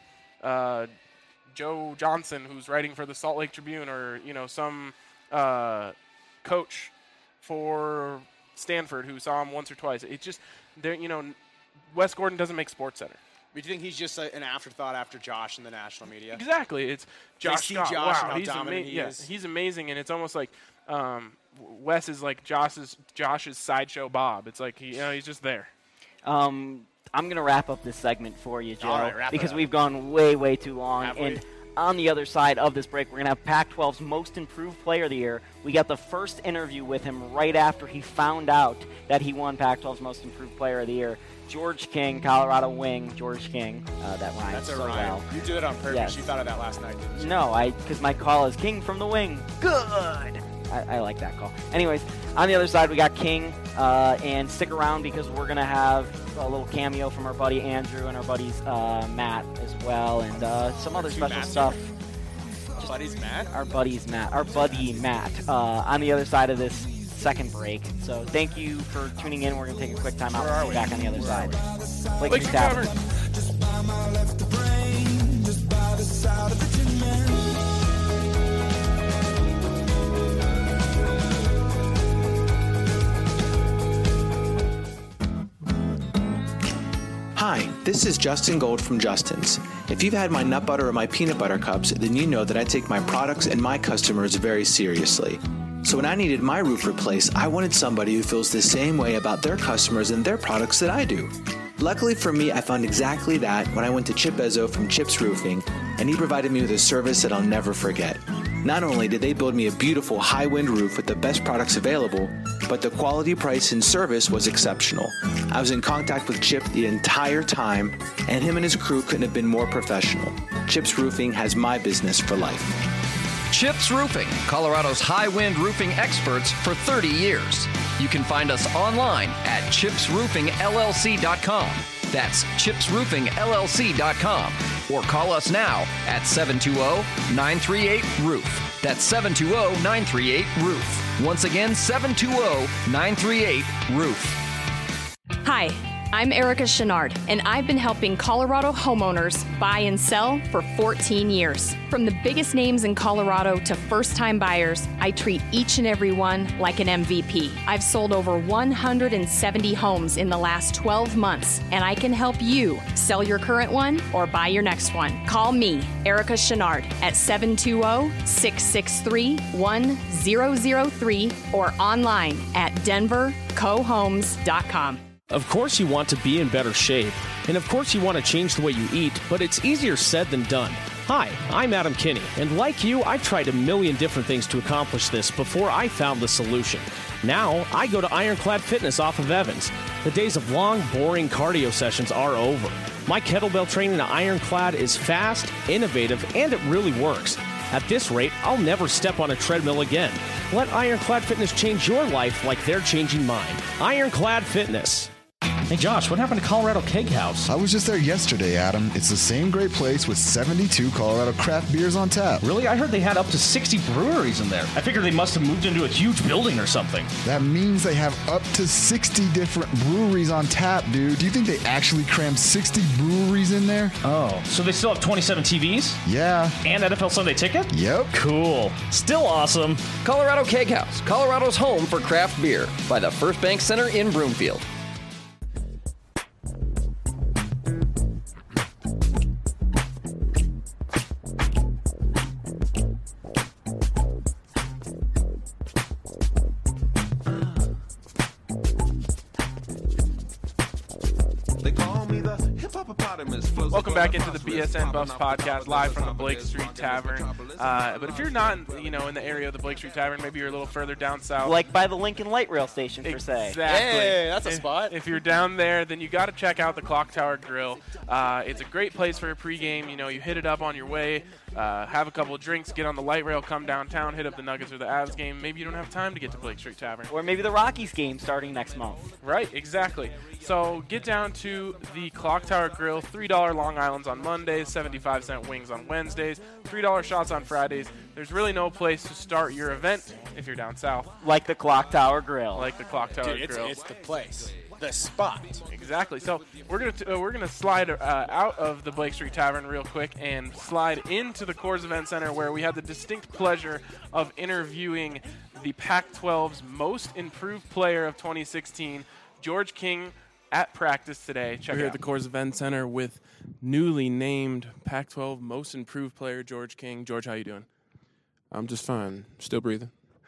Joe Johnson, who's writing for the Salt Lake Tribune, or, some coach for Stanford who saw him once or twice. It's just, Wes Gordon doesn't make SportsCenter. But do you think he's just an afterthought after Josh in the national media? Exactly. It's Josh see Scott. Josh wow, and how dominant he is. He's amazing, and it's almost like Wes is like Josh's sideshow Bob. It's like he's just there. I'm going to wrap up this segment for you, Joe, All right, wrap it because up. we've gone way, way too long. Have we? And on the other side of this break, we're going to have Pac-12's Most Improved Player of the Year. We got the first interview with him right after he found out that he won Pac-12's Most Improved Player of the Year. George King, Colorado wing, George King. That rhymes That's a so rhyme. well. You did it on purpose. Yes. You thought of that last night, didn't you? No, because my call is King from the wing. Good. I like that call. Anyways, on the other side, we got King. And stick around because we're going to have a little cameo from our buddy Andrew and our buddies Matt as well, and some other two special Matts stuff. Buddies, Matt? Our buddy Matt on the other side of this second break. So thank you for tuning in. We're going to take a quick time out. Where are We'll be we? back on the other side. Lakes Tavern. Just by my left the brain, just by the side of the tin man. Hi, this is Justin Gold from Justin's. If you've had my nut butter or my peanut butter cups, then you know that I take my products and my customers very seriously. So when I needed my roof replaced, I wanted somebody who feels the same way about their customers and their products that I do. Luckily for me, I found exactly that when I went to Chip Ezzo from Chip's Roofing, and he provided me with a service that I'll never forget. Not only did they build me a beautiful high-wind roof with the best products available, but the quality, price, and service was exceptional. I was in contact with Chip the entire time, and him and his crew couldn't have been more professional. Chip's Roofing has my business for life. Chips Roofing, Colorado's high-wind roofing experts for 30 years. You can find us online at chipsroofingllc.com. That's chipsroofingllc.com. Or call us now at 720-938-ROOF. That's 720-938-ROOF. Once again, 720-938-ROOF. Hi, I'm Erica Chenard, and I've been helping Colorado homeowners buy and sell for 14 years. From the biggest names in Colorado to first-time buyers, I treat each and every one like an MVP. I've sold over 170 homes in the last 12 months, and I can help you sell your current one or buy your next one. Call me, Erica Chenard, at 720-663-1003 or online at denvercohomes.com. Of course you want to be in better shape, and of course you want to change the way you eat, but it's easier said than done. Hi, I'm Adam Kinney, and like you, I've tried a million different things to accomplish this before I found the solution. Now, I go to Ironclad Fitness off of Evans. The days of long, boring cardio sessions are over. My kettlebell training at Ironclad is fast, innovative, and it really works. At this rate, I'll never step on a treadmill again. Let Ironclad Fitness change your life like they're changing mine. Ironclad Fitness. Hey Josh, what happened to Colorado Keg House? I was just there yesterday, Adam. It's the same great place with 72 Colorado craft beers on tap. Really? I heard they had up to 60 breweries in there. I figured they must have moved into a huge building or something. That means they have up to 60 different breweries on tap, dude. Do you think they actually crammed 60 breweries in there? Oh, so they still have 27 TVs? Yeah. And NFL Sunday Ticket? Yep. Cool. Still awesome. Colorado Keg House, Colorado's home for craft beer, by the First Bank Center in Broomfield. Welcome back into the BSN Buffs podcast, live from the Blake Street Tavern. But if you're not, in the area of the Blake Street Tavern, maybe you're a little further down south, like by the Lincoln Light Rail Station, per se. Exactly. Hey, that's a spot. If you're down there, then you got to check out the Clock Tower Grill. It's a great place for a pregame. You hit it up on your way, have a couple of drinks, get on the light rail, come downtown, hit up the Nuggets or the Avs game. Maybe you don't have time to get to Blake Street Tavern, or maybe the Rockies game starting next month. Right, exactly. So get down to the Clock Tower Grill. $3 Long Islands on Mondays, 75-cent wings on Wednesdays, $3 shots on Fridays. There's really no place to start your event if you're down south. Like the Clock Tower Grill. Like the Clock Tower Grill. It's the place. The spot. Exactly. So we're gonna slide out of the Blake Street Tavern real quick and slide into the Coors Event Center, where we had the distinct pleasure of interviewing the Pac-12's most improved player of 2016, George King, at practice today. We're here at the Coors Event Center with newly named Pac-12 most improved player George King. George, how you doing? I'm just fine. Still breathing.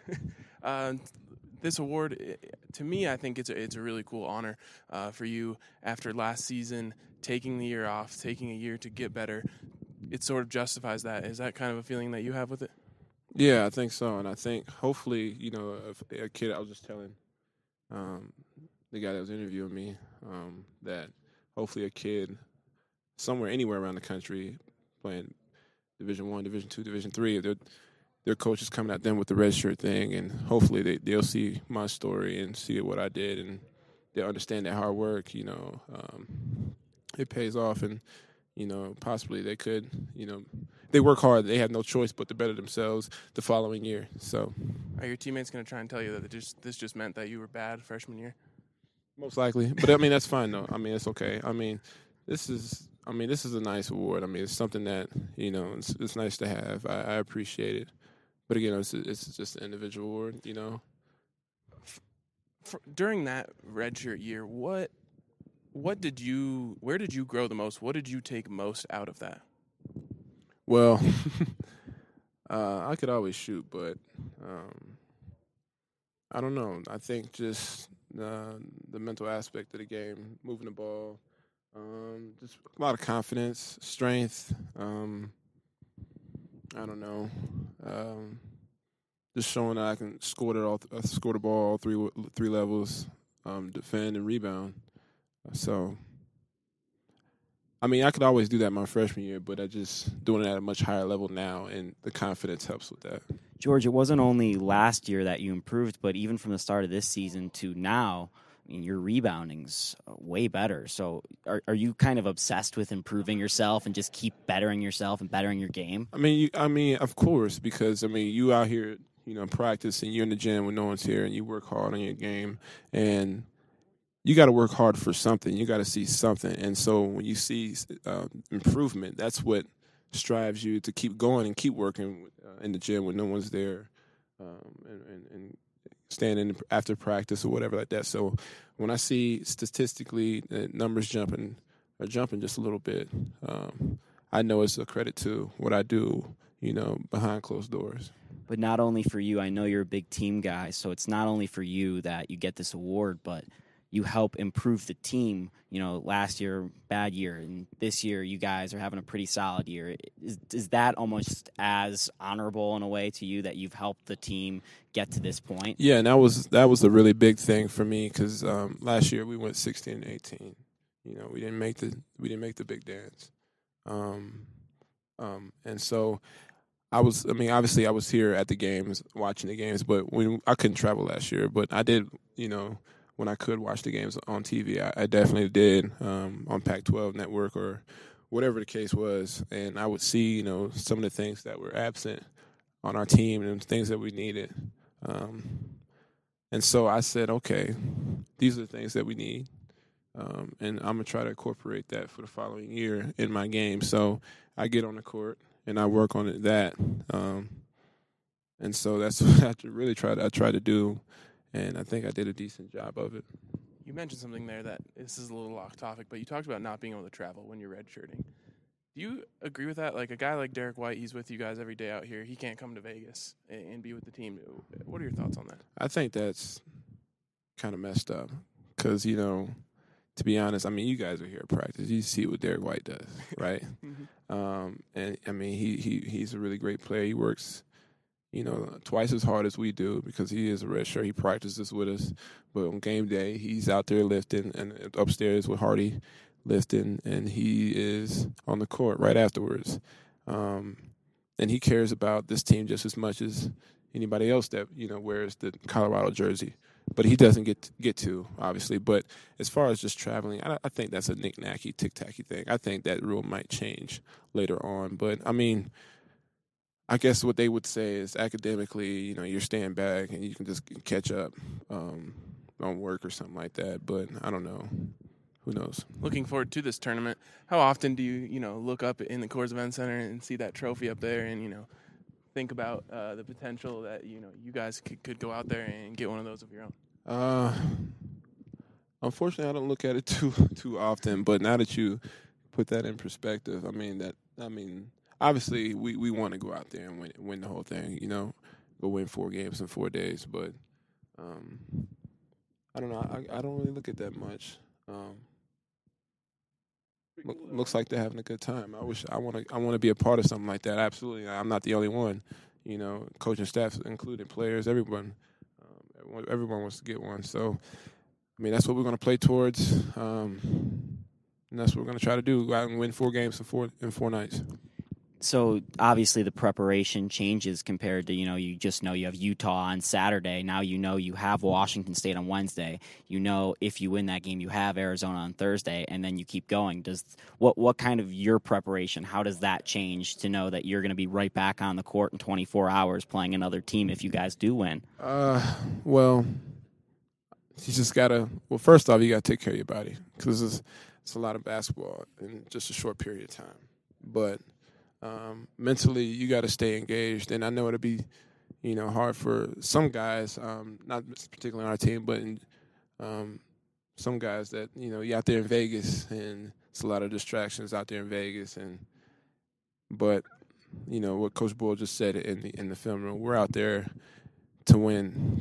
This award, to me, I think it's a really cool honor for you after last season, taking the year off, taking a year to get better. It sort of justifies that. Is that kind of a feeling that you have with it? Yeah, I think so. And I think hopefully, a kid, I was just telling the guy that was interviewing me that hopefully a kid somewhere, anywhere around the country playing Division I, Division II, Division III, their coach is coming at them with the red shirt thing, and hopefully they'll see my story and see what I did, and they'll understand that hard work, it pays off, and, possibly they could, they work hard. They have no choice but to better themselves the following year. So, are your teammates going to try and tell you that this just meant that you were bad freshman year? Most likely. But, that's fine, though. It's okay. This is a nice award. It's something that, it's nice to have. I appreciate it. But again, it's just an individual award, During that redshirt year, where did you grow the most? What did you take most out of that? Well, I could always shoot, but I don't know. I think just the mental aspect of the game, moving the ball, just a lot of confidence, strength. I don't know. Just showing that I can score the ball all three levels, defend and rebound. So, I mean, I could always do that my freshman year, but I just doing it at a much higher level now, and the confidence helps with that. George, it wasn't only last year that you improved, but even from the start of this season to now, I mean, your rebounding's way better. So are you kind of obsessed with improving yourself and just keep bettering yourself and bettering your game? I mean, of course, because, I mean, you out here, practice, and you're in the gym when no one's here, and you work hard on your game, and you got to work hard for something. You got to see something. And so when you see improvement, that's what strives you to keep going and keep working in the gym when no one's there, and standing after practice or whatever like that. So when I see statistically the numbers jumping just a little bit, I know it's a credit to what I do, behind closed doors. But not only for you, I know you're a big team guy, so it's not only for you that you get this award, but you help improve the team. Last year, bad year, and this year you guys are having a pretty solid year. Is that almost as honorable in a way to you that you've helped the team get to this point? Yeah, and that was a really big thing for me because last year we went 16-18. We didn't make the big dance, and so obviously I was here at the games, watching the games, but when I couldn't travel last year, but I did, when I could watch the games on TV, I definitely did on Pac-12 Network or whatever the case was, and I would see, some of the things that were absent on our team and things that we needed. And so I said, okay, these are the things that we need, and I'm going to try to incorporate that for the following year in my game. So I get on the court, and I work on that. And so that's what I tried to do. And I think I did a decent job of it. You mentioned something there that this is a little off topic, but you talked about not being able to travel when you're redshirting. Do you agree with that? Like a guy like Derek White, he's with you guys every day out here. He can't come to Vegas and be with the team. What are your thoughts on that? I think that's kind of messed up because, to be honest, I mean, you guys are here at practice. You see what Derek White does, right? And, I mean, he's a really great player. He works twice as hard as we do because he is a redshirt. He practices with us. But on game day, he's out there lifting and upstairs with Hardy lifting, and he is on the court right afterwards. And he cares about this team just as much as anybody else that, wears the Colorado jersey. But he doesn't get to, obviously. But as far as just traveling, I think that's a knick-knacky, tic-tacky thing. I think that rule might change later on. But, I mean, I guess what they would say is academically, you're staying back and you can just catch up on work or something like that. But I don't know. Who knows? Looking forward to this tournament. How often do you, look up in the Coors Event Center and see that trophy up there and, think about the potential that, you guys could go out there and get one of those of your own? Unfortunately, I don't look at it too often. But now that you put that in perspective, obviously, we want to go out there and win the whole thing, go win 4 games in 4 days. But I don't know. I don't really look at that much. Looks like they're having a good time. I want to be a part of something like that. Absolutely, I'm not the only one. Coaching staff included, players, everyone wants to get one. So, that's what we're going to play towards, and that's what we're going to try to do. Go out and win 4 games in 4 nights. So obviously the preparation changes compared to, you just know you have Utah on Saturday. Now you have Washington State on Wednesday. If you win that game, you have Arizona on Thursday, and then you keep going. What kind of your preparation, how does that change to know that you're going to be right back on the court in 24 hours playing another team if you guys do win? Well, you just got to – first off, you got to take care of your body because it's a lot of basketball in just a short period of time. But – mentally, you got to stay engaged, and I know it'll be, hard for some guys, not particularly on our team, but some guys that you're out there in Vegas, and it's a lot of distractions out there in Vegas, but what Coach Bull just said in the film room, we're out there to win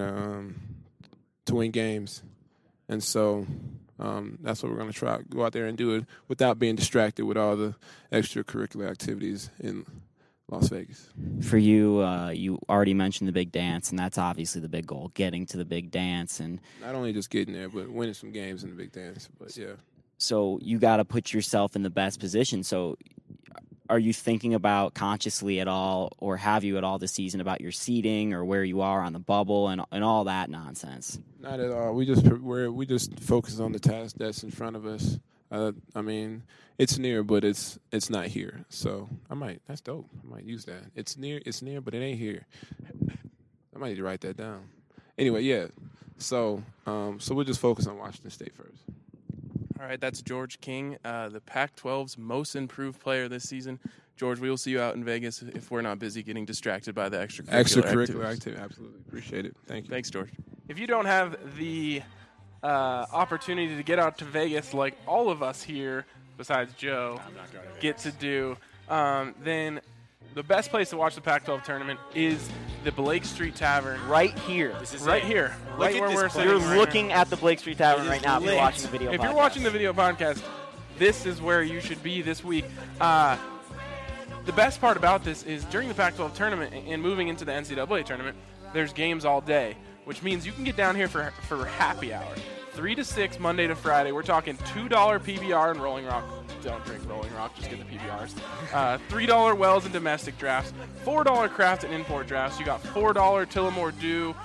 games, and so. That's what we're going to try. Go out there and do it without being distracted with all the extracurricular activities in Las Vegas. For you, you already mentioned the big dance, and that's obviously the big goal, getting to the big dance. And not only just getting there, but winning some games in the big dance. But, yeah. So you got to put yourself in the best position. So are you thinking about consciously at all, or have you at all this season, about your seating or where you are on the bubble and all that nonsense? Not at all. We just focus on the task that's in front of us. I mean, it's near, but it's not here. So that's dope. I might use that. It's near, but it ain't here. I might need to write that down. Anyway, yeah. So we'll just focus on Washington State first. All right, that's George King, the Pac-12's most improved player this season. George, we will see you out in Vegas if we're not busy getting distracted by the extracurricular activities. Absolutely. Appreciate it. Thank you. Thanks, George. If you don't have the opportunity to get out to Vegas like all of us here, besides Joe, get to do, then the best place to watch the Pac-12 tournament is the Blake Street Tavern. Right here. This is right it. here. Right where we're sitting. You're right looking now. at the Blake Street Tavern right now if you're watching the video podcast. If you're watching the video podcast, this is where you should be this week. The best part about this is during the Pac-12 tournament and moving into the NCAA tournament, there's games all day, which means you can get down here for happy hour. 3 to 6, Monday to Friday. We're talking $2 PBR and Rolling Rock. Don't drink Rolling Rock, just get the PBRs. $3 Wells and domestic drafts. $4 craft and import drafts. You got $4 Tillamore Dew,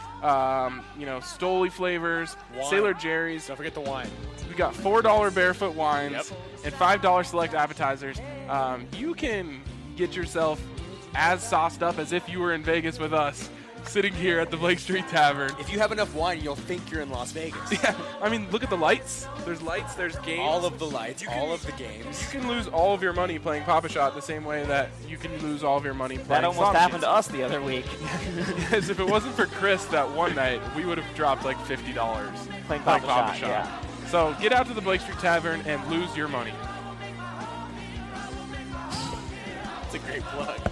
Stoli flavors, wine. Sailor Jerry's. Don't forget the wine. We got $4 Barefoot wines and $5 select appetizers. You can get yourself as sauced up as if you were in Vegas with us, sitting here at the Blake Street Tavern. If you have enough wine, you'll think you're in Las Vegas. Yeah, I mean, look at the lights. There's lights, there's games. All of the lights, all of the games. You can lose all of your money playing Pop-A-Shot the same way that you can lose all of your money playing That almost slot happened machines. to us the other week. Yes, if it wasn't for Chris that one night, we would have dropped like $50 playing Pop-A-Shot. Yeah. So get out to the Blake Street Tavern and lose your money. It's a great plug.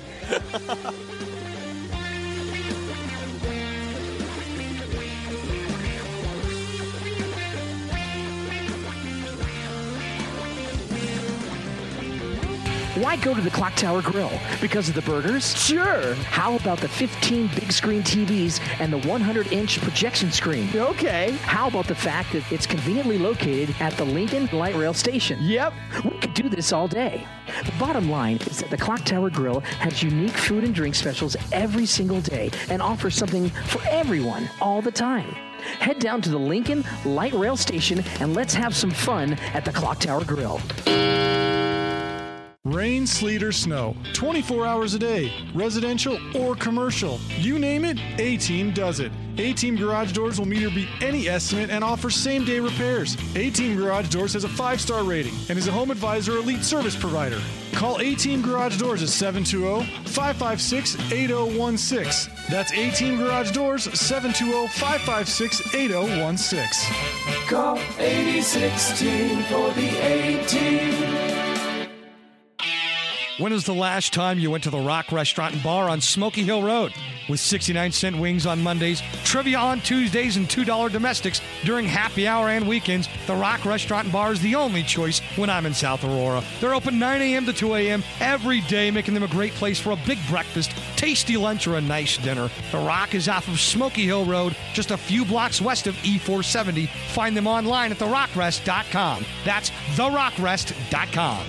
Why go to the Clock Tower Grill? Because of the burgers? Sure. How about the 15 big screen TVs and the 100-inch projection screen? Okay. How about the fact that it's conveniently located at the Lincoln Light Rail Station? Yep. We could do this all day. The bottom line is that the Clock Tower Grill has unique food and drink specials every single day and offers something for everyone all the time. Head down to the Lincoln Light Rail Station and let's have some fun at the Clock Tower Grill. Rain, sleet, or snow, 24 hours a day, residential or commercial. You name it, A-Team does it. A-Team Garage Doors will meet or beat any estimate and offers same-day repairs. A-Team Garage Doors has a 5-star rating and is a Home Advisor Elite service provider. Call A-Team Garage Doors at 720-556-8016. That's A-Team Garage Doors, 720-556-8016. Call 8016 for the A-Team. When was the last time you went to the Rock Restaurant and Bar on Smoky Hill Road? With 69-cent wings on Mondays, trivia on Tuesdays, and $2 domestics during happy hour and weekends, the Rock Restaurant and Bar is the only choice when I'm in South Aurora. They're open 9 a.m. to 2 a.m. every day, making them a great place for a big breakfast, tasty lunch, or a nice dinner. The Rock is off of Smoky Hill Road, just a few blocks west of E470. Find them online at therockrest.com. That's therockrest.com.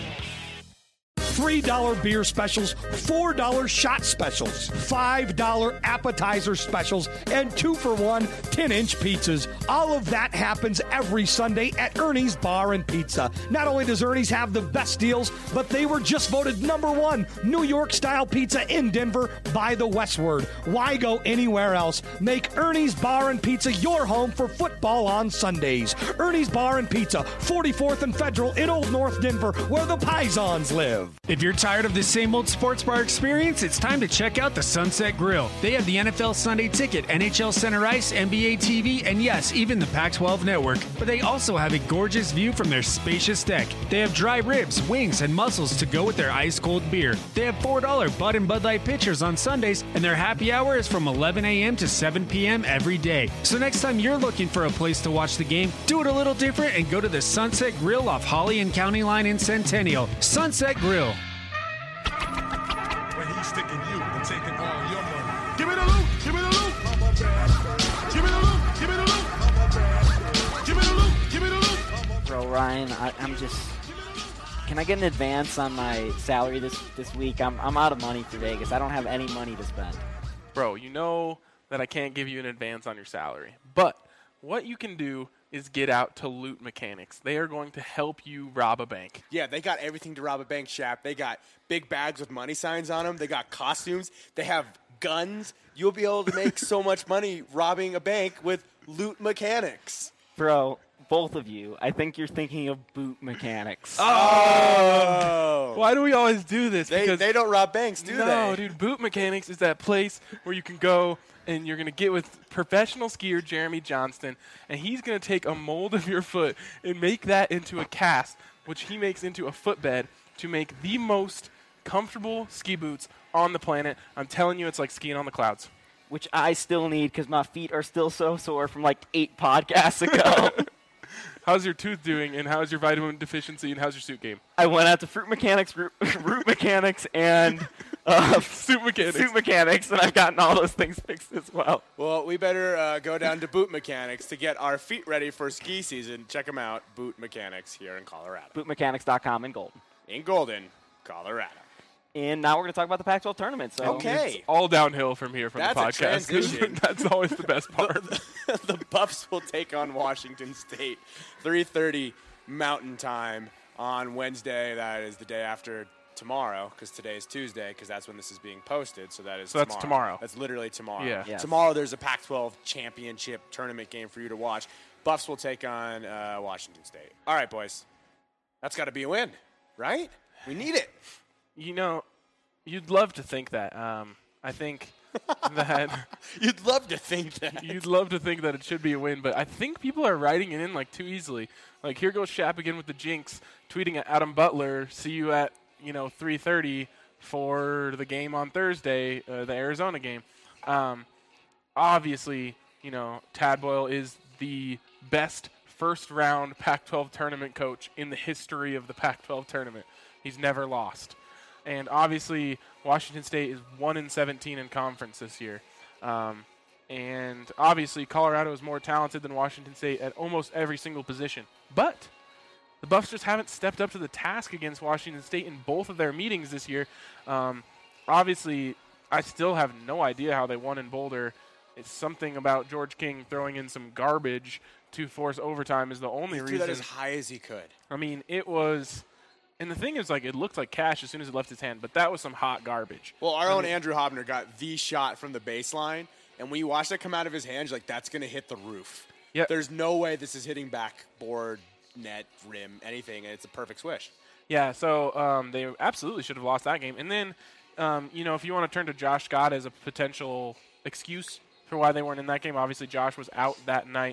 $3 beer specials, $4 shot specials, $5 appetizer specials, and 2-for-1 10-inch pizzas. All of that happens every Sunday at Ernie's Bar and Pizza. Not only does Ernie's have the best deals, but they were just voted #1 New York-style pizza in Denver by the Westward. Why go anywhere else? Make Ernie's Bar and Pizza your home for football on Sundays. Ernie's Bar and Pizza, 44th and Federal in Old North Denver, where the Pisons live. If you're tired of the same old sports bar experience, it's time to check out the Sunset Grill. They have the NFL Sunday Ticket, NHL Center Ice, NBA TV, and yes, even the Pac-12 Network. But they also have a gorgeous view from their spacious deck. They have dry ribs, wings, and mussels to go with their ice-cold beer. They have $4 Bud and Bud Light pitchers on Sundays, and their happy hour is from 11 a.m. to 7 p.m. every day. So next time you're looking for a place to watch the game, do it a little different and go to the Sunset Grill off Holly and County Line in Centennial. Sunset Grill. but he's sticking you and taking all your money. Give me the loot, give me the loot. Give me the loot, give me the loot. Give me the loot, give me the loot. Bro, Ryan, I'm just. Can I get an advance on my salary this week? I'm out of money for Vegas. I don't have any money to spend. Bro, you know that I can't give you an advance on your salary. But what you can do is get out to Loot Mechanics. They are going to help you rob a bank. Yeah, they got everything to rob a bank, Shap. They got big bags with money signs on them. They got costumes. They have guns. You'll be able to make so much money robbing a bank with Loot Mechanics. Bro, both of you, I think you're thinking of Boot Mechanics. Oh! Why do we always do this? They don't rob banks, do they? No, dude. Boot Mechanics is that place where you can go and you're going to get with professional skier Jeremy Johnston, and he's going to take a mold of your foot and make that into a cast, which he makes into a footbed to make the most comfortable ski boots on the planet. I'm telling you, it's like skiing on the clouds. Which I still need because my feet are still so sore from like 8 podcasts ago. How's your tooth doing, and how's your vitamin deficiency, and how's your suit game? I went out to Fruit Mechanics, Root Mechanics, and Suit Mechanics, and I've gotten all those things fixed as well. Well, we better go down to Boot Mechanics to get our feet ready for ski season. Check them out, Boot Mechanics here in Colorado. BootMechanics.com in Golden. In Golden, Colorado. And now we're going to talk about the Pac-12 tournament. So okay. It's all downhill from here from That's the podcast. A transition. That's always the best part. The Buffs will take on Washington State, 3:30 Mountain Time on Wednesday. That is the day after tomorrow, because today is Tuesday, because that's when this is being posted. So that is that's tomorrow. That's literally tomorrow. Yeah. Yes. Tomorrow there's a Pac-12 championship tournament game for you to watch. Buffs will take on Washington State. All right, boys. That's got to be a win, right? We need it. You know, you'd love to think that. I think that you'd love to think that. You'd love to think that it should be a win, but I think people are writing it in like too easily. Like here goes Shap again with the jinx, tweeting at Adam Butler. See you at 3:30 for the game on Thursday, the Arizona game. Obviously, Tad Boyle is the best first-round Pac-12 tournament coach in the history of the Pac-12 tournament. He's never lost. And obviously, Washington State is 1-17 in conference this year. And obviously, Colorado is more talented than Washington State at almost every single position. But the Buffs just haven't stepped up to the task against Washington State in both of their meetings this year. Obviously, I still have no idea how they won in Boulder. It's something about George King throwing in some garbage to force overtime is the only reason. He threw that as high as he could. I mean, it was. And the thing is, it looked like cash as soon as it left his hand, but that was some hot garbage. Well, our own Andrew Hobner got the shot from the baseline, and when you watch that come out of his hands, you're like, that's going to hit the roof. Yep. There's no way this is hitting backboard, net, rim, anything, and it's a perfect swish. Yeah, so they absolutely should have lost that game. And then, if you want to turn to Josh Scott as a potential excuse for why they weren't in that game, obviously Josh was out that night.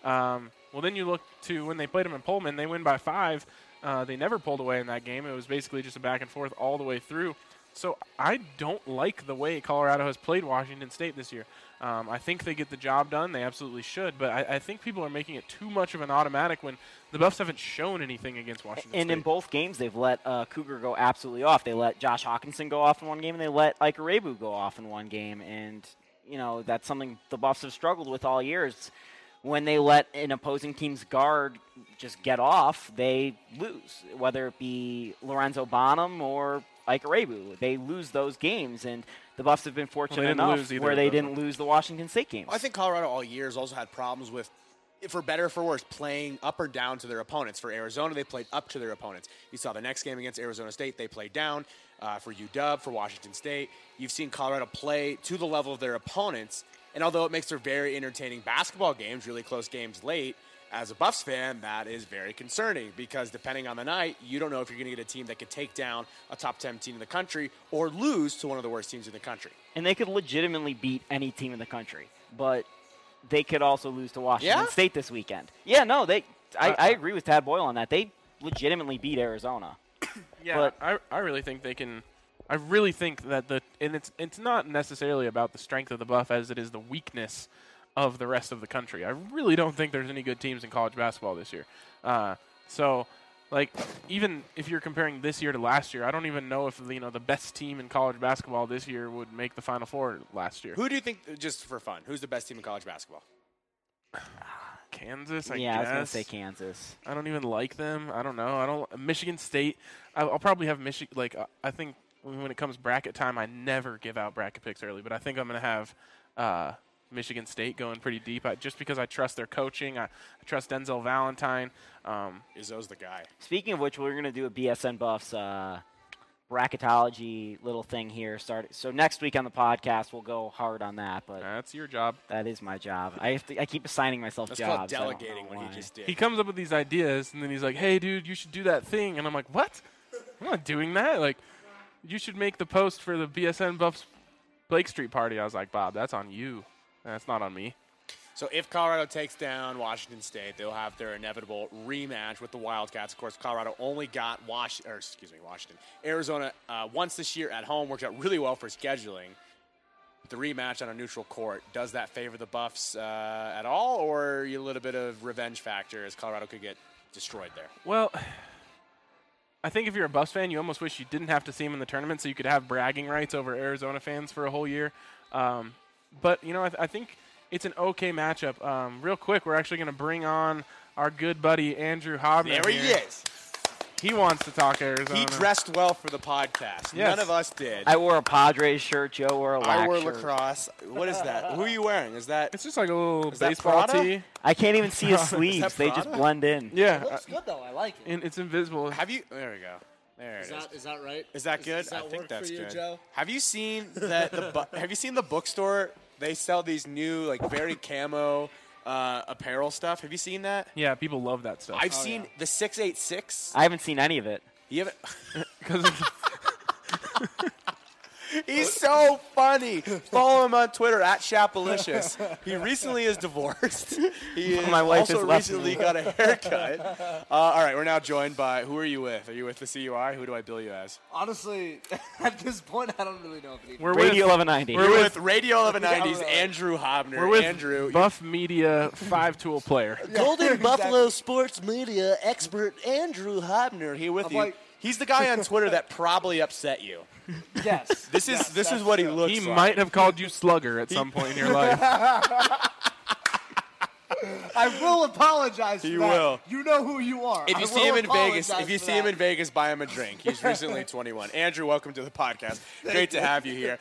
Well, then you look to when they played him in Pullman, they win by 5. They never pulled away in that game. It was basically just a back and forth all the way through. So I don't like the way Colorado has played Washington State this year. I think they get the job done. They absolutely should. But I think people are making it too much of an automatic when the Buffs haven't shown anything against Washington State. And in both games, they've let Cougar go absolutely off. They let Josh Hawkinson go off in one game, and they let Ike Rebu go off in one game. And, that's something the Buffs have struggled with all year. When they let an opposing team's guard just get off, they lose, whether it be Lorenzo Bonham or Ike Rebu. They lose those games, and the Buffs have been fortunate enough where they didn't lose the Washington State games. I think Colorado all year has also had problems with, for better or for worse, playing up or down to their opponents. For Arizona, they played up to their opponents. You saw the next game against Arizona State, they played down. For UW, for Washington State, you've seen Colorado play to the level of their opponents. And although it makes for very entertaining basketball games, really close games late, as a Buffs fan, that is very concerning because depending on the night, you don't know if you're going to get a team that could take down a top 10 team in the country or lose to one of the worst teams in the country. And they could legitimately beat any team in the country, but they could also lose to Washington State this weekend. Yeah, no, I agree with Tad Boyle on that. They legitimately beat Arizona. Yeah, but I really think they can. I really think that it's not necessarily about the strength of the Buff as it is the weakness of the rest of the country. I really don't think there's any good teams in college basketball this year. So Like, even if you're comparing this year to last year, I don't even know if the best team in college basketball this year would make the Final Four last year. Who do you think, just for fun, who's the best team in college basketball? Kansas, I guess. Yeah, I was going to say Kansas. I don't even like them. I don't know. Michigan State. I'll probably have Michigan. Like, I think when it comes bracket time, I never give out bracket picks early, but I think I'm going to have Michigan State going pretty deep, just because I trust their coaching. I trust Denzel Valentine. Izzo's the guy. Speaking of which, we're going to do a BSN Buffs bracketology little thing here. So next week on the podcast, we'll go hard on that. But that's your job. That is my job. I keep assigning myself That's jobs. That's called delegating what he just did. He comes up with these ideas, and then he's like, hey, dude, you should do that thing. And I'm like, what? I'm not doing that. Like, you should make the post for the BSN Buffs Blake Street party. I was like, Bob, that's on you. That's not on me. So if Colorado takes down Washington State, they'll have their inevitable rematch with the Wildcats. Of course, Colorado only got Washington. Arizona once this year at home. Worked out really well for scheduling. The rematch on a neutral court, does that favor the Buffs at all, or are you a little bit of revenge factor as Colorado could get destroyed there? Well, I think if you're a Buffs fan, you almost wish you didn't have to see them in the tournament so you could have bragging rights over Arizona fans for a whole year. But, I think it's an okay matchup. Real quick, we're actually going to bring on our good buddy Andrew Hobner. There he is. He wants to talk Arizona. He dressed well for the podcast. Yes. None of us did. I wore a Padres shirt. Joe wore a Lac I wore shirt. lacrosse. What is that? Who are you wearing? Is that? It's just like a little Is that baseball Prada? tee. I can't even see his Is sleeves. that They just Prada? blend in. Yeah. It looks good though. I like it. And it's invisible. Have you? There we go. There it is. Is that right? Is that good? Does that I think work that's for you, good. Joe? Have you seen that? Have you seen the bookstore? They sell these new, very camo apparel stuff. Have you seen that? Yeah, people love that stuff. I've seen the 686. I haven't seen any of it. You haven't? He's so funny. Follow him on Twitter at Shapalicious. He recently is divorced. He My wife also has left recently me. got a haircut. All right, we're now joined by, who are you with? Are you with the CUI? Who do I bill you as? Honestly, at this point, I don't really know if it even. We're Radio 1190. You're with Radio 1190's Yeah, Andrew Hobner. We're with Andrew. Buff Media 5-tool player. Golden Buffalo sports media expert Andrew Hobner here with you. He's the guy on Twitter that probably upset you. Yes. This is what he looks He like. might have called you Slugger at some point in your life. I will apologize for He that. will. You know who you are. If you I see will him in Vegas, apologize if you for see him that. in Vegas, buy him a drink. He's recently 21. Andrew, welcome to the podcast. Great to have you here.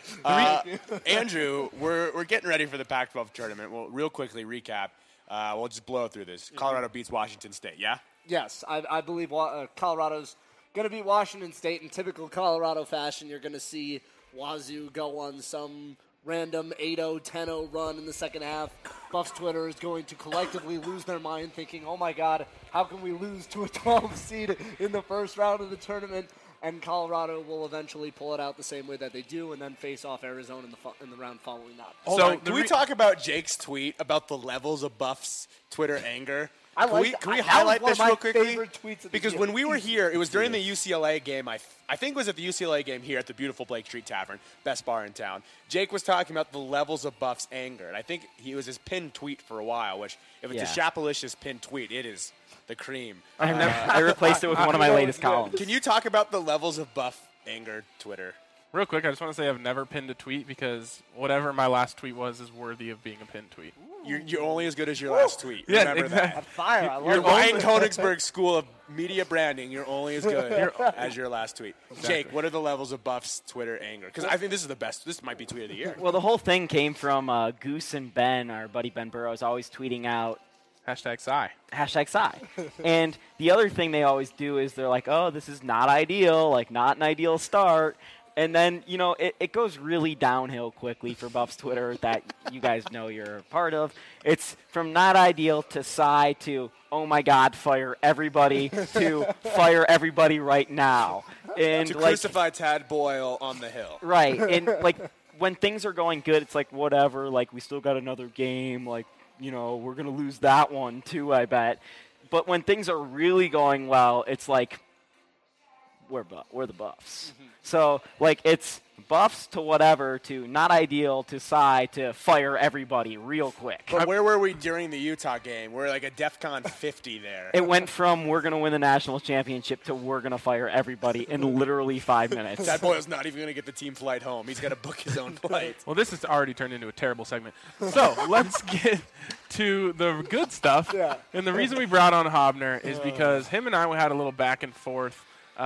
Andrew, we're getting ready for the Pac-12 tournament. We'll real quickly recap. We'll just blow through this. Colorado beats Washington State. Yeah. Yes, I believe Colorado's going to beat Washington State in typical Colorado fashion. You're going to see Wazoo go on some random 8-0, 10-0 run in the second half. Buffs Twitter is going to collectively lose their mind thinking, oh my God, how can we lose to a 12 seed in the first round of the tournament? And Colorado will eventually pull it out the same way that they do and then face off Arizona in the round following that. Hold on. Can we talk about Jake's tweet about the levels of Buffs Twitter anger? I like Can we that. highlight That was this one real of my quickly? favorite tweets of the Because year. when we were here, it was during the UCLA game. I think it was at the UCLA game here at the beautiful Blake Street Tavern, best bar in town. Jake was talking about the levels of Buffs' anger, and I think he was his pinned tweet for a while. Which, if it's a Shapalicious pinned tweet, it is the cream. I replaced it with one of my latest columns. Can you talk about the levels of Buff anger Twitter? Real quick, I just want to say I've never pinned a tweet because whatever my last tweet was is worthy of being a pinned tweet. You're only as good as your last tweet. Yeah, Remember exactly. that. Fire, I love Your it. Ryan Koenigsberg School of Media Branding, you're only as good as your last tweet. Jake, what are the levels of Buff's Twitter anger? Because I think this is the best. This might be tweet of the year. Well, the whole thing came from Goose and Ben, our buddy Ben Burrows, always tweeting out #Psy. #Psy. And the other thing they always do is they're like, oh, this is not ideal, like not an ideal start. And then, it goes really downhill quickly for Buffs Twitter that you guys know you're a part of. It's from not ideal to Psy to, oh, my God, fire everybody to fire everybody right now. And to crucify Tad Boyle on the Hill. Right. And, when things are going good, it's like, whatever, we still got another game. We're going to lose that one, too, I bet. But when things are really going well, it's like, we're the Buffs. Mm-hmm. So, it's Buffs to whatever to not ideal to Cy to fire everybody real quick. But where were we during the Utah game? We're like a DEFCON 50 there. It went from we're going to win the national championship to we're going to fire everybody in literally 5 minutes. That Boyle's not even going to get the team flight home. He's got to book his own flight. Well, this has already turned into a terrible segment. So let's get to the good stuff. Yeah. And the reason we brought on Hobner is because him and I had a little back and forth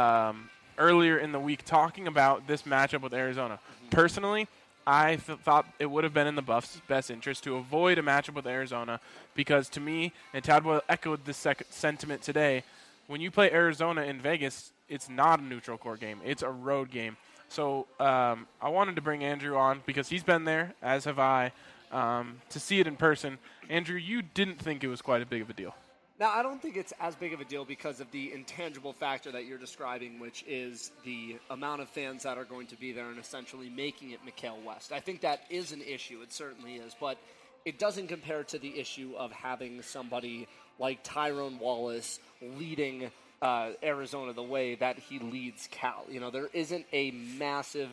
earlier in the week talking about this matchup with Arizona. Personally, I thought it would have been in the Buffs' best interest to avoid a matchup with Arizona because to me, and Tad Boyle echoed this sentiment today, when you play Arizona in Vegas, it's not a neutral court game. It's a road game. So I wanted to bring Andrew on because he's been there, as have I, to see it in person. Andrew, you didn't think it was quite as big of a deal. Now, I don't think it's as big of a deal because of the intangible factor that you're describing, which is the amount of fans that are going to be there and essentially making it McHale West. I think that is an issue. It certainly is. But it doesn't compare to the issue of having somebody like Tyrone Wallace leading Arizona the way that he leads Cal. You know, there isn't a massive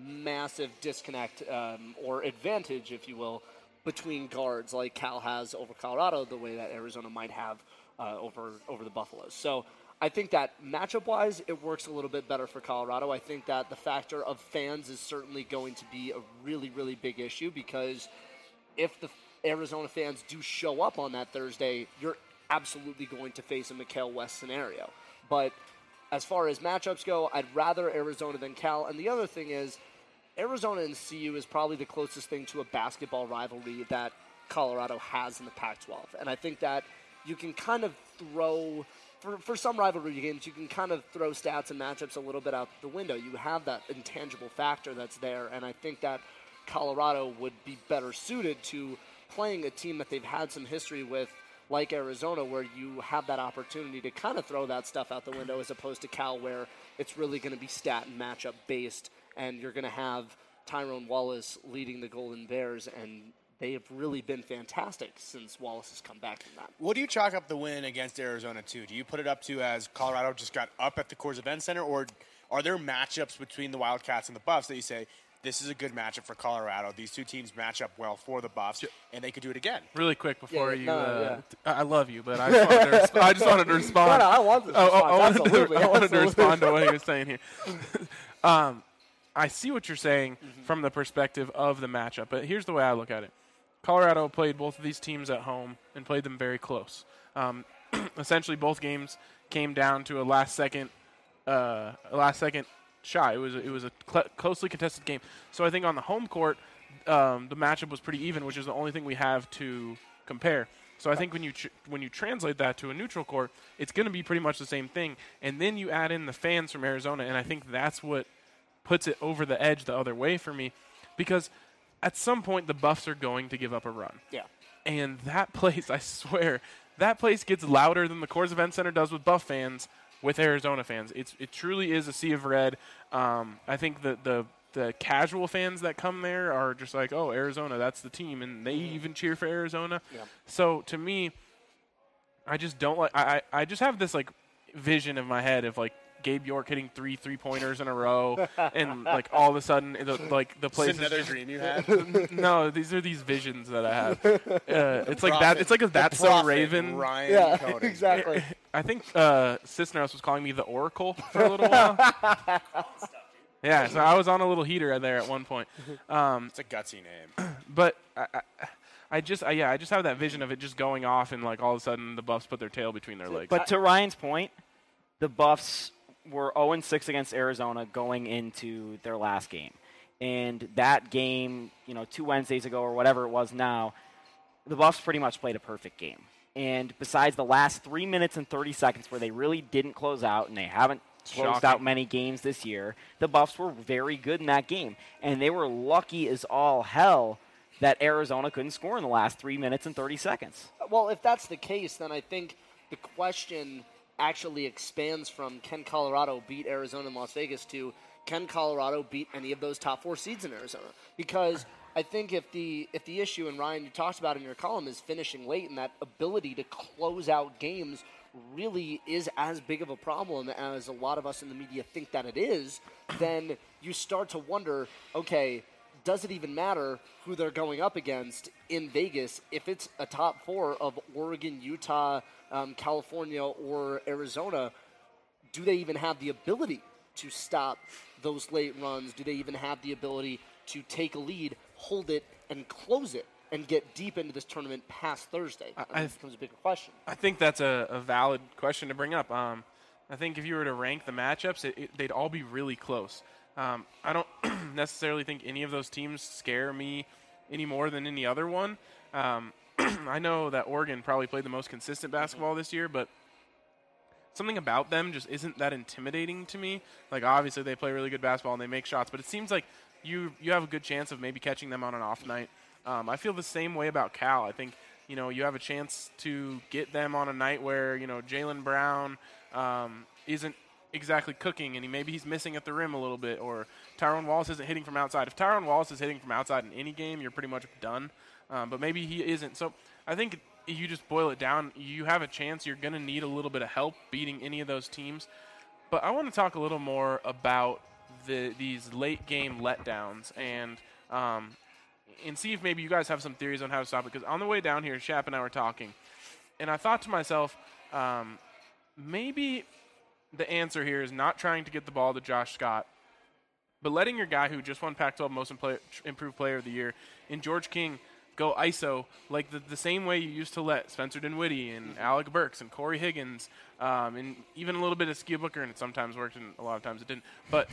disconnect or advantage, if you will, between guards like Cal has over Colorado, the way that Arizona might have over the Buffaloes. So I think that matchup-wise, it works a little bit better for Colorado. I think that the factor of fans is certainly going to be a really, really big issue because if the Arizona fans do show up on that Thursday, you're absolutely going to face a McHale West scenario. But as far as matchups go, I'd rather Arizona than Cal. And the other thing is, Arizona and CU is probably the closest thing to a basketball rivalry that Colorado has in the Pac-12. And I think that you can kind of throw, for some rivalry games, you can kind of throw stats and matchups a little bit out the window. You have that intangible factor that's there, and I think that Colorado would be better suited to playing a team that they've had some history with, like Arizona, where you have that opportunity to kind of throw that stuff out the window as opposed to Cal, where it's really going to be stat and matchup based, and you're going to have Tyrone Wallace leading the Golden Bears, and they have really been fantastic since Wallace has come back from that. What do you chalk up the win against Arizona to? Do you put it up to as Colorado just got up at the Coors Event Center, or are there matchups between the Wildcats and the Buffs that you say, this is a good matchup for Colorado, these two teams match up well for the Buffs, and they could do it again? Really quick before I love you, but I just wanted to respond. No, I wanted to respond to what he was saying here. I see what you're saying from the perspective of the matchup, but here's the way I look at it. Colorado played both of these teams at home and played them very close. Essentially, both games came down to a last second shot. It was a closely contested game. So I think on the home court, the matchup was pretty even, which is the only thing we have to compare. So I think when you translate that to a neutral court, it's going to be pretty much the same thing. And then you add in the fans from Arizona, and I think that's what puts it over the edge the other way for me, because at some point the Buffs are going to give up a run. Yeah. And that place, I swear, that place gets louder than the Coors Event Center does with Buff fans with Arizona fans. It truly is a sea of red. I think the casual fans that come there are just like, oh, Arizona, that's the team, and they even cheer for Arizona. Yeah. So to me, I just don't like. I just have this like vision in my head of like Gabe York hitting 3 3-pointers in a row, and like all of a sudden, the place is another just, dream you had. No, these are these visions that I have. It's like that. It's like a That's So Raven. Ryan Coding. Exactly. I think Cisneros was calling me the Oracle for a little while. Yeah, so I was on a little heater there at one point. It's a gutsy name. But I just have that vision of it just going off, and like all of a sudden the Buffs put their tail between their legs. But to Ryan's point, the Buffs were 0-6 against Arizona going into their last game. And that game, 2 Wednesdays ago or whatever it was now, the Buffs pretty much played a perfect game. And besides the last 3 minutes and 30 seconds where they really didn't close out, and they haven't closed out many games this year, the Buffs were very good in that game. And they were lucky as all hell that Arizona couldn't score in the last 3 minutes and 30 seconds. Well, if that's the case, then I think the question actually expands from can Colorado beat Arizona and Las Vegas to can Colorado beat any of those top 4 seeds in Arizona? Because I think if the issue, and Ryan, you talked about in your column, is finishing late and that ability to close out games really is as big of a problem as a lot of us in the media think that it is, then you start to wonder, okay, does it even matter who they're going up against in Vegas if it's a top 4 of Oregon, Utah, California, or Arizona? Do they even have the ability to stop those late runs? Do they even have the ability to take a lead, hold it, and close it, and get deep into this tournament past Thursday? That becomes a bigger question. I think that's a valid question to bring up. I think if you were to rank the matchups, they'd all be really close. I don't necessarily think any of those teams scare me any more than any other one. I know that Oregon probably played the most consistent basketball this year, but something about them just isn't that intimidating to me. Like, obviously they play really good basketball and they make shots, but it seems like you have a good chance of maybe catching them on an off night. I feel the same way about Cal. I think, you have a chance to get them on a night where, Jaylen Brown isn't exactly cooking and maybe he's missing at the rim a little bit, or Tyrone Wallace isn't hitting from outside. If Tyrone Wallace is hitting from outside in any game, you're pretty much done. But maybe he isn't. So I think you just boil it down. You have a chance. You're going to need a little bit of help beating any of those teams. But I want to talk a little more about these late game letdowns and see if maybe you guys have some theories on how to stop it. Because on the way down here, Shap and I were talking, and I thought to myself, maybe the answer here is not trying to get the ball to Josh Scott, but letting your guy who just won Pac-12 Most Improved Player of the Year in George King go ISO like the same way you used to let Spencer Dinwiddie and Alec Burks and Corey Higgins and even a little bit of Skia Booker, and it sometimes worked and a lot of times it didn't. But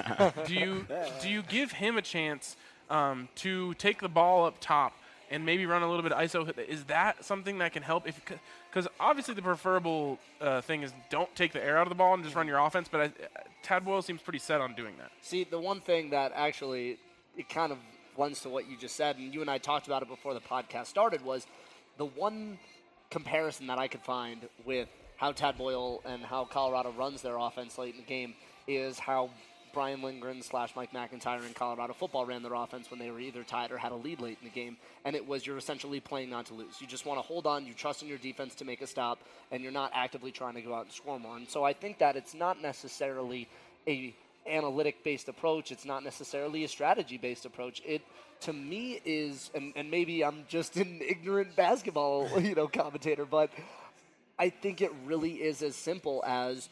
do you give him a chance to take the ball up top and maybe run a little bit of ISO? Is that something that can help? Because obviously the preferable thing is don't take the air out of the ball and just run your offense, but Tad Boyle seems pretty set on doing that. See, the one thing that actually it kind of lends to what you just said, and you and I talked about it before the podcast started, was the one comparison that I could find with how Tad Boyle and how Colorado runs their offense late in the game is how Brian Lindgren / Mike McIntyre in Colorado football ran their offense when they were either tied or had a lead late in the game, and it was you're essentially playing not to lose. You just want to hold on, you trust in your defense to make a stop, and you're not actively trying to go out and score more. And so I think that it's not necessarily a analytic-based approach. It's not necessarily a strategy-based approach. It, to me, is, and maybe I'm just an ignorant basketball commentator, but I think it really is as simple as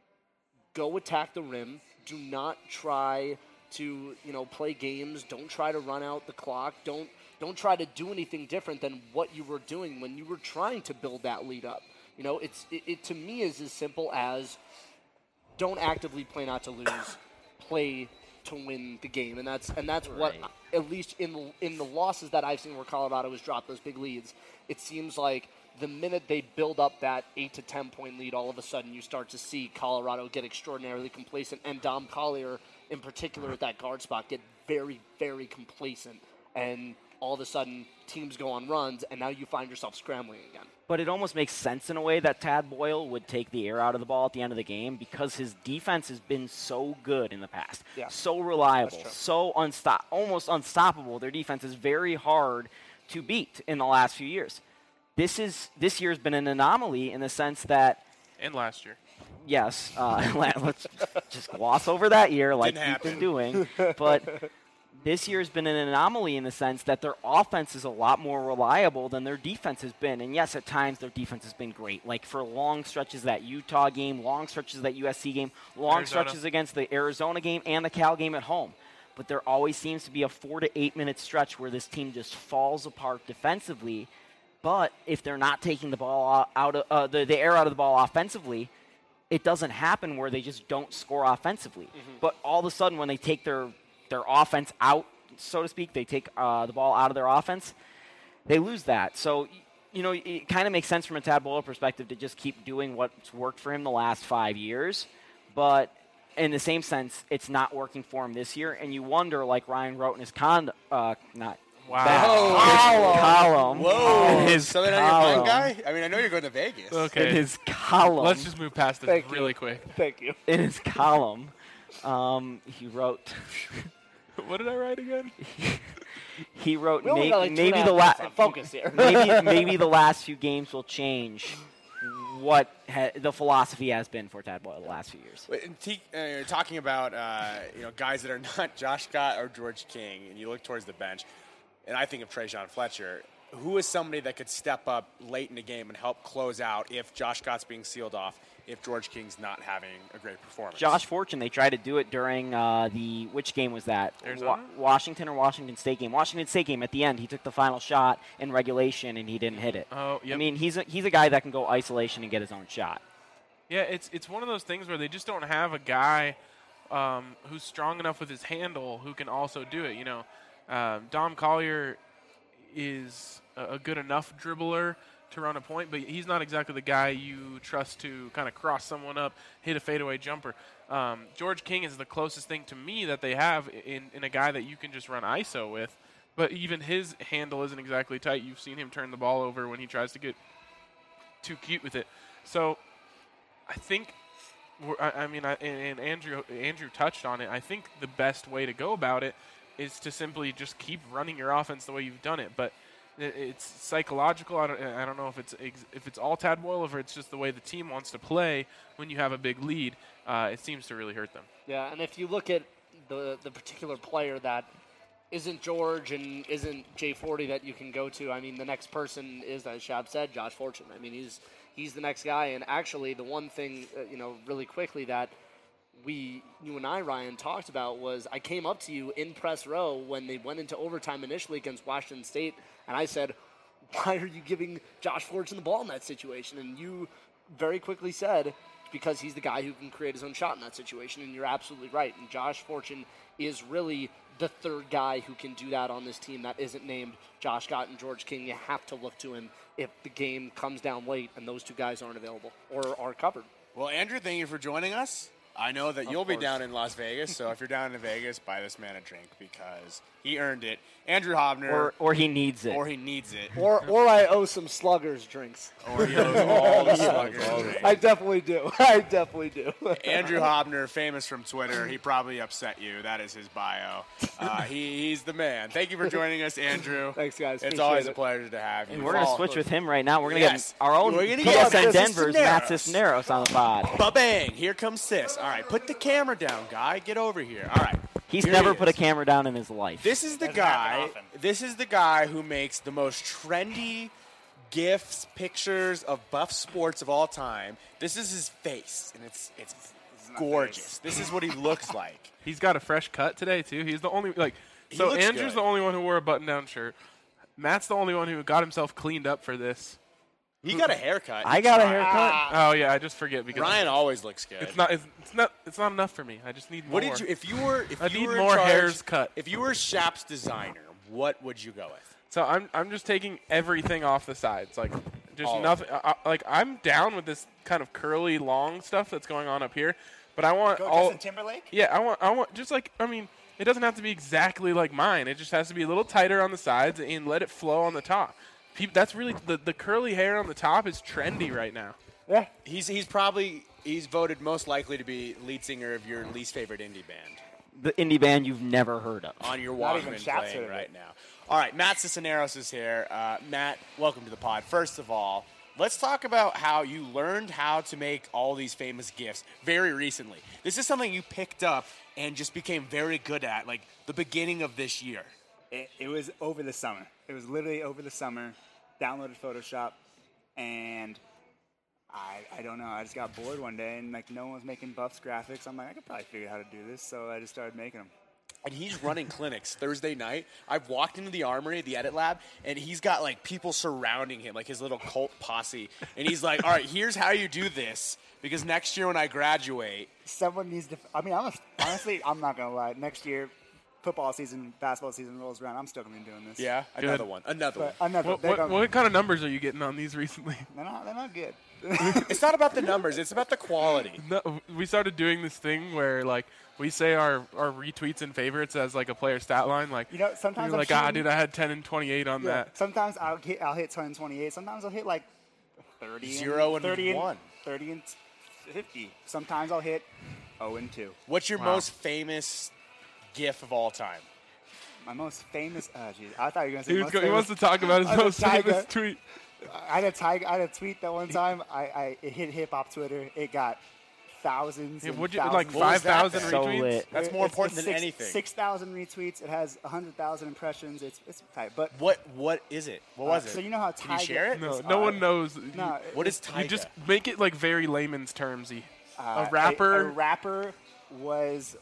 go attack the rim. Do not try to, play games. Don't try to run out the clock. Don't try to do anything different than what you were doing when you were trying to build that lead up. It to me is as simple as don't actively play not to lose, play to win the game, and that's right. What, at least in the losses that I've seen where Colorado has dropped those big leads, it seems like the minute they build up that 8 to 10 point lead, all of a sudden you start to see Colorado get extraordinarily complacent, and Dom Collier in particular at that guard spot get very, very complacent, and all of a sudden teams go on runs, and now you find yourself scrambling again. But it almost makes sense in a way that Tad Boyle would take the air out of the ball at the end of the game because his defense has been so good in the past, so reliable, so almost unstoppable. Their defense is very hard to beat in the last few years. This year's been an anomaly in the sense that, and last year, yes, let's just gloss over that year like we've been doing, but this year's been an anomaly in the sense that their offense is a lot more reliable than their defense has been. And yes, at times their defense has been great. Like for long stretches that Utah game, long stretches that USC game, long stretches against the Arizona game and the Cal game at home. But there always seems to be a 4 to 8 minute stretch where this team just falls apart defensively. But if they're not taking the ball out of the air out of the ball offensively, it doesn't happen where they just don't score offensively. Mm-hmm. But all of a sudden when they take their offense out, so to speak, they take the ball out of their offense, they lose that. So, it kind of makes sense from a Tad Boyle perspective to just keep doing what's worked for him the last 5 years. But in the same sense, it's not working for him this year. And you wonder, like Ryan wrote in his column. Whoa. His Southern Onion guy? I mean, I know you're going to Vegas. Okay. In his column. Let's just move past this really quick. Thank you. In his column, he wrote. What did I write again? He wrote maybe the last maybe the last few games will change what the philosophy has been for Tad Boyle the last few years. You're talking about guys that are not Josh Scott or George King, and you look towards the bench, and I think of Trayshawn Fletcher. Who is somebody that could step up late in the game and help close out if Josh Scott's being sealed off, if George King's not having a great performance? Josh Fortune, they tried to do it during which game was that? Washington or Washington State game? Washington State game at the end. He took the final shot in regulation, and he didn't hit it. Oh, yep. I mean, he's a guy that can go isolation and get his own shot. Yeah, it's one of those things where they just don't have a guy who's strong enough with his handle who can also do it. Dom Collier is a good enough dribbler to run a point, but he's not exactly the guy you trust to kind of cross someone up, hit a fadeaway jumper. George King is the closest thing to me that they have in a guy that you can just run ISO with, but even his handle isn't exactly tight. You've seen him turn the ball over when he tries to get too cute with it. So I think, and Andrew touched on it, I think the best way to go about it is to simply just keep running your offense the way you've done it. But it's psychological. I don't know if it's all Tad Boyle or if it's just the way the team wants to play when you have a big lead. It seems to really hurt them. Yeah, and if you look at the particular player that isn't George and isn't J40 that you can go to, I mean, the next person is, as Shab said, Josh Fortune. I mean, he's the next guy. And actually, the one thing, really quickly that you and I, Ryan, talked about was I came up to you in press row when they went into overtime initially against Washington State, and I said, why are you giving Josh Fortune the ball in that situation? And you very quickly said, because he's the guy who can create his own shot in that situation, and you're absolutely right. And Josh Fortune is really the third guy who can do that on this team that isn't named Josh Scott and George King. You have to look to him if the game comes down late and those two guys aren't available or are covered. Well, Andrew, thank you for joining us. I know that you'll be down in Las Vegas, so if you're down in Vegas, buy this man a drink because he earned it. Andrew Hobner. Or he needs it. Or he needs it. Or I owe some Sluggers drinks. Or he owes all the Sluggers drinks. I definitely do. Andrew Hobner, famous from Twitter. He probably upset you. That is his bio. He's the man. Thank you for joining us, Andrew. Thanks, guys. It's always a pleasure to have you. And we're going to switch with him right now. We're going to get our own PSN Denver's Matt Cisneros on the pod. Ba-bang. Here comes Cis. All right, put the camera down, guy. Get over here. All right. He's never put a camera down in his life. This is the guy. This is the guy who makes the most trendy GIFs, pictures of Buff Sports of all time. This is his face, and it's gorgeous. This is what he looks like. He's got a fresh cut today too. He's the only So Andrew's the only one who wore a button-down shirt. Matt's the only one who got himself cleaned up for this. He got a haircut. I got a haircut. Oh yeah, I just forget because Ryan always looks good. It's not enough for me. I just need more. What did you? If you were more hairs cut. If you were Shap's designer, what would you go with? So I'm just taking everything off the sides, like just All nothing. I'm down with this kind of curly, long stuff that's going on up here, but I want all Justin Timberlake. Yeah, I want just like it doesn't have to be exactly like mine. It just has to be a little tighter on the sides and let it flow on the top. That's really the curly hair on the top is trendy right now. Yeah, he's voted most likely to be lead singer of your least favorite indie band. The indie band you've never heard of. On your Walkman playing right now. All right, Matt Cisneros is here. Matt, welcome to the pod. First of all, let's talk about how you learned how to make all these famous GIFs very recently. This is something you picked up and just became very good at, like the beginning of this year. It was over the summer. It was literally over the summer. Downloaded Photoshop, and I don't know. I just got bored one day, and no one was making Buffs graphics. I'm like, I could probably figure out how to do this, so I just started making them. And he's running clinics Thursday night. I've walked into the Armory, the Edit Lab, and he's got people surrounding him, like his little cult posse. And he's like, all right, here's how you do this, because next year when I graduate. Someone needs to. Honestly, I'm not going to lie. Next year, football season, basketball season rolls around, I'm still going to be doing this. Yeah, another one. What kind of numbers are you getting on these recently? They're not good. It's not about the numbers. It's about the quality. No, we started doing this thing where we say our retweets and favorites as a player stat line. Sometimes you're like, dude, I had 10 and 28 on that. Sometimes I'll hit 10 and 28. Sometimes I'll hit 30 0 and 30 1. 30 and 50. Sometimes I'll hit 0 and 2. What's your most famous GIF of all time? My most famous. Oh, jeez. I thought you were going to say He most he wants to famous- talk about his I'm a most famous tiger. tweet. I had a tweet that one time. It hit hip hop Twitter. It got thousands. Yeah, and what'd you- thousands. like 5,000 So retweets? lit. That's more It's important than six- anything. 6,000 retweets. It has 100,000 impressions. It's tight. But What is it? What was it? So you know how Can you Tyga- share it? No one knows. No, What is You Tyga? just make it like very layman's termsy. A rapper. rapper was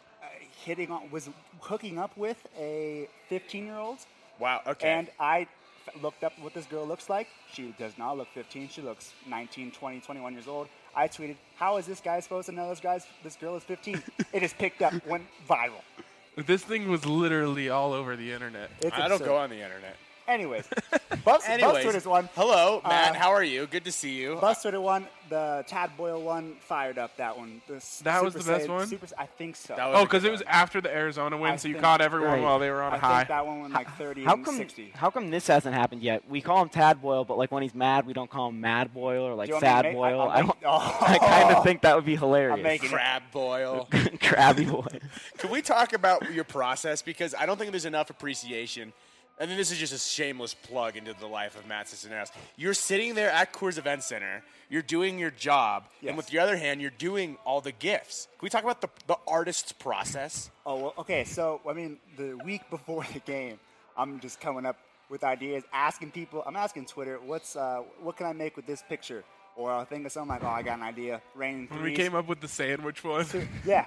was hooking up with a 15-year-old. Wow. Okay. And I looked up what this girl looks like. She does not look 15. She looks 19, 20, 21 years old. I tweeted, "How is this guy supposed to know this girl is 15?" It is picked up, went viral. This thing was literally all over the internet. It's I don't absurd. go on the internet. Anyways, Buffs Twitter's one. Hello, Matt. How are you? Good to see you. Buffs Twitter one. The Tad Boyle one fired up that one. That was the best one? I think so. Oh, because it was after the Arizona win, so you think- caught everyone Right. while they were on a I high. think that one went like 30 How and come? 60. How come this hasn't happened yet? We call him Tad Boyle, but like when he's mad, we don't call him Mad Boyle or like Do you want me to Sad make- Boyle. I'll I, don't. make- oh. I kind of think that would be hilarious. I'm making it. Crab boil. Crabby boy. Can we talk about your process? Because I don't think there's enough appreciation. And then this is just a shameless plug into the life of Matt Cisneros. You're sitting there at Coors Event Center. You're doing your job. Yes. And with your other hand, you're doing all the gifts. Can we talk about the artist's process? Oh, well, okay. So, I mean, the week before the game, I'm just coming up with ideas, asking people. I'm asking Twitter, what can I make with this picture? Or I'll think of something like, oh, I got an idea. Raining When threes. we came up with the sandwich one. Yeah.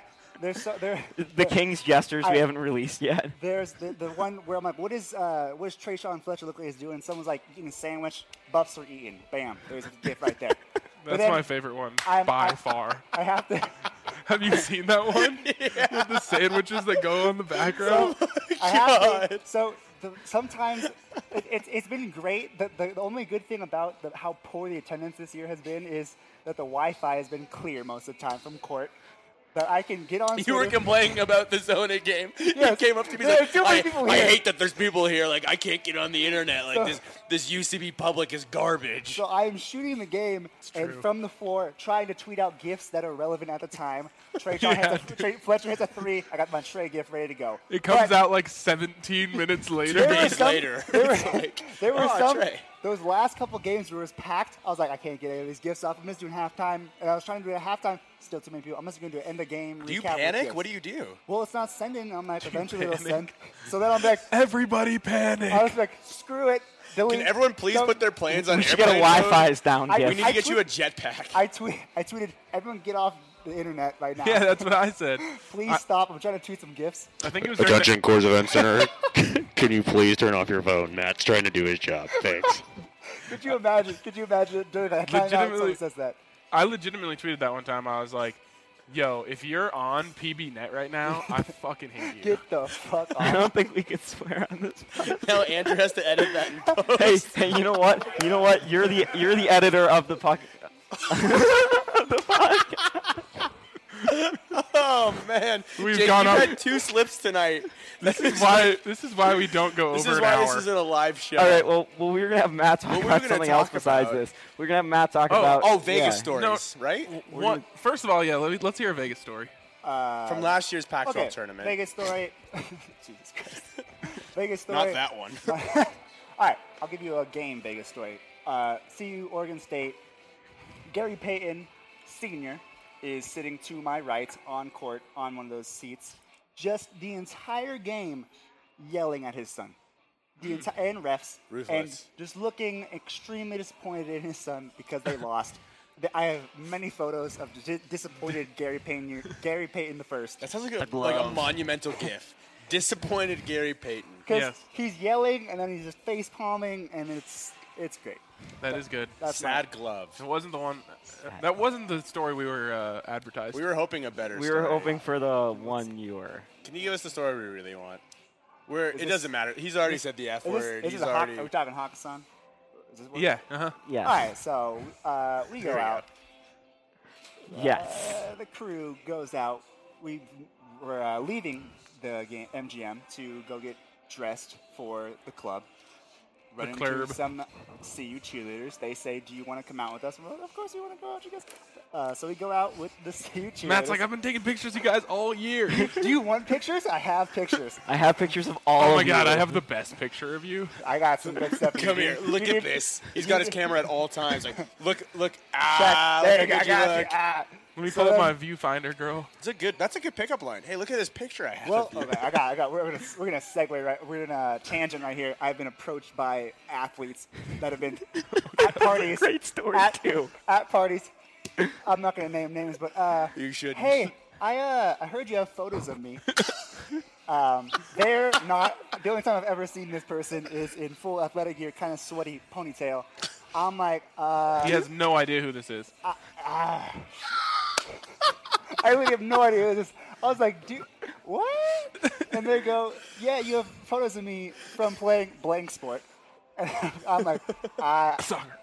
The King's gestures we haven't released yet. There's the one where I'm like, what does Trayshawn Fletcher look like he's doing? Someone's like eating a sandwich. Buffs are eating. Bam. There's a gift right there. But That's then my favorite one I far. I have to. Have you seen that one? With the sandwiches that go on the background? I have to, so sometimes it's been great. The only good thing about how poor the attendance this year has been is that the Wi-Fi has been clear most of the time from court. That I can get on. You were complaining about the Zona game. Yes. You came up to me There are like, too many people I here." hate that there's people here. Like, I can't get on the internet. Like, So- this UCB public is garbage. So I'm shooting the game and from the floor trying to tweet out gifts that are relevant at the time. Fletcher hits a three. I got my Trey gift ready to go. It comes But out like 17 minutes later. there were some- There were "Oh, some. Trey." Those last couple games where it was packed, I was like, I can't get any of these gifts off. I'm just doing halftime, and I was trying to do it at halftime. Still too many people. I'm just going to do an end of game. Do you recap with panic? gifts. What do you do? Well, it's not sending. I'm like, eventually it'll send. So then I'm like, everybody panic. I was like, screw it. Delete. Can everyone please put their plans on We should get a airplane mode? Wi-Fi's down I- gift. We need to get you a jetpack. I tweeted, everyone get off the internet right now. Yeah, that's what I said. Please stop. I'm trying to tweet some gifts. I think it was Attention, Coors Event Center. Can you please turn off your phone? Matt's trying to do his job. Thanks. Could you imagine during that timeout someone says that? I legitimately tweeted that one time. I was like, yo, if you're on PBNet right now, I fucking hate you. Get the fuck off. I don't think we can swear on this. Now Andrew has to edit that in post. Hey, you know what? You know what? You're the editor of the podcast. Oh man, We've Jake, gone you've up- had 2 slips tonight. This is why we don't go This over is an why hour. this isn't a live show. All right. Well, we're gonna have Matt talk What were we about gonna something talk else besides about? this. We're gonna have Matt talk about Vegas yeah. stories, right? First of all, yeah, let's hear a Vegas story. From last year's Pac-12 Okay, tournament. Vegas story. Jesus Christ. Vegas story. Not that one. All right, I'll give you a game Vegas story. CU Oregon State. Gary Payton, Sr., is sitting to my right on court on one of those seats, just the entire game yelling at his son. And refs. Ruthless. And just looking extremely disappointed in his son because they lost. I have many photos of disappointed Gary Payton the first. That sounds like a monumental gif. Disappointed Gary Payton. Because he's yelling and then he's just face palming, and it's great. That is good. That's Sad glove. It wasn't the one. That wasn't the story we were advertising. We were hoping a better We story. were hoping for the one you were. Can you give us the story we really want? It doesn't matter. He's already said the F word. Is He's this already. are we talking Hakkasan? Yeah. Uh-huh. Yeah. All right, so we go There we go. out. Yes. The crew goes out. We're leaving the game, MGM to go get dressed for the club. run into club. some CU cheerleaders. They say, "Do you want to come out with us?" We're like, "Of course we want to go out, you guys." So we go out with the CU cheerleaders. Matt's like, I've been taking pictures of you guys all year. Do you want pictures? I have pictures. I have pictures of all Oh of my God, you. I have the best picture of you. I got some good stuff. Come here, look at this. He's got his camera at all times. Like, look, There look you go, at I got look. you. Let me So pull up then- my viewfinder, girl. That's a good pickup line. Hey, look at this picture I have. Well, of you. okay, I got. We're gonna segue right. We're in a tangent right here. I've been approached by athletes that have been at parties. Great story, too. At parties. I'm not gonna name names, but You shouldn't. Hey, I heard you have photos of me. They're not. The only time I've ever seen this person is in full athletic gear, kind of sweaty ponytail. I'm like, He has no idea who this is. I really have no idea who this is. I was like, dude, what? And they go, yeah, you have photos of me from playing blank sport. And I'm like, Soccer.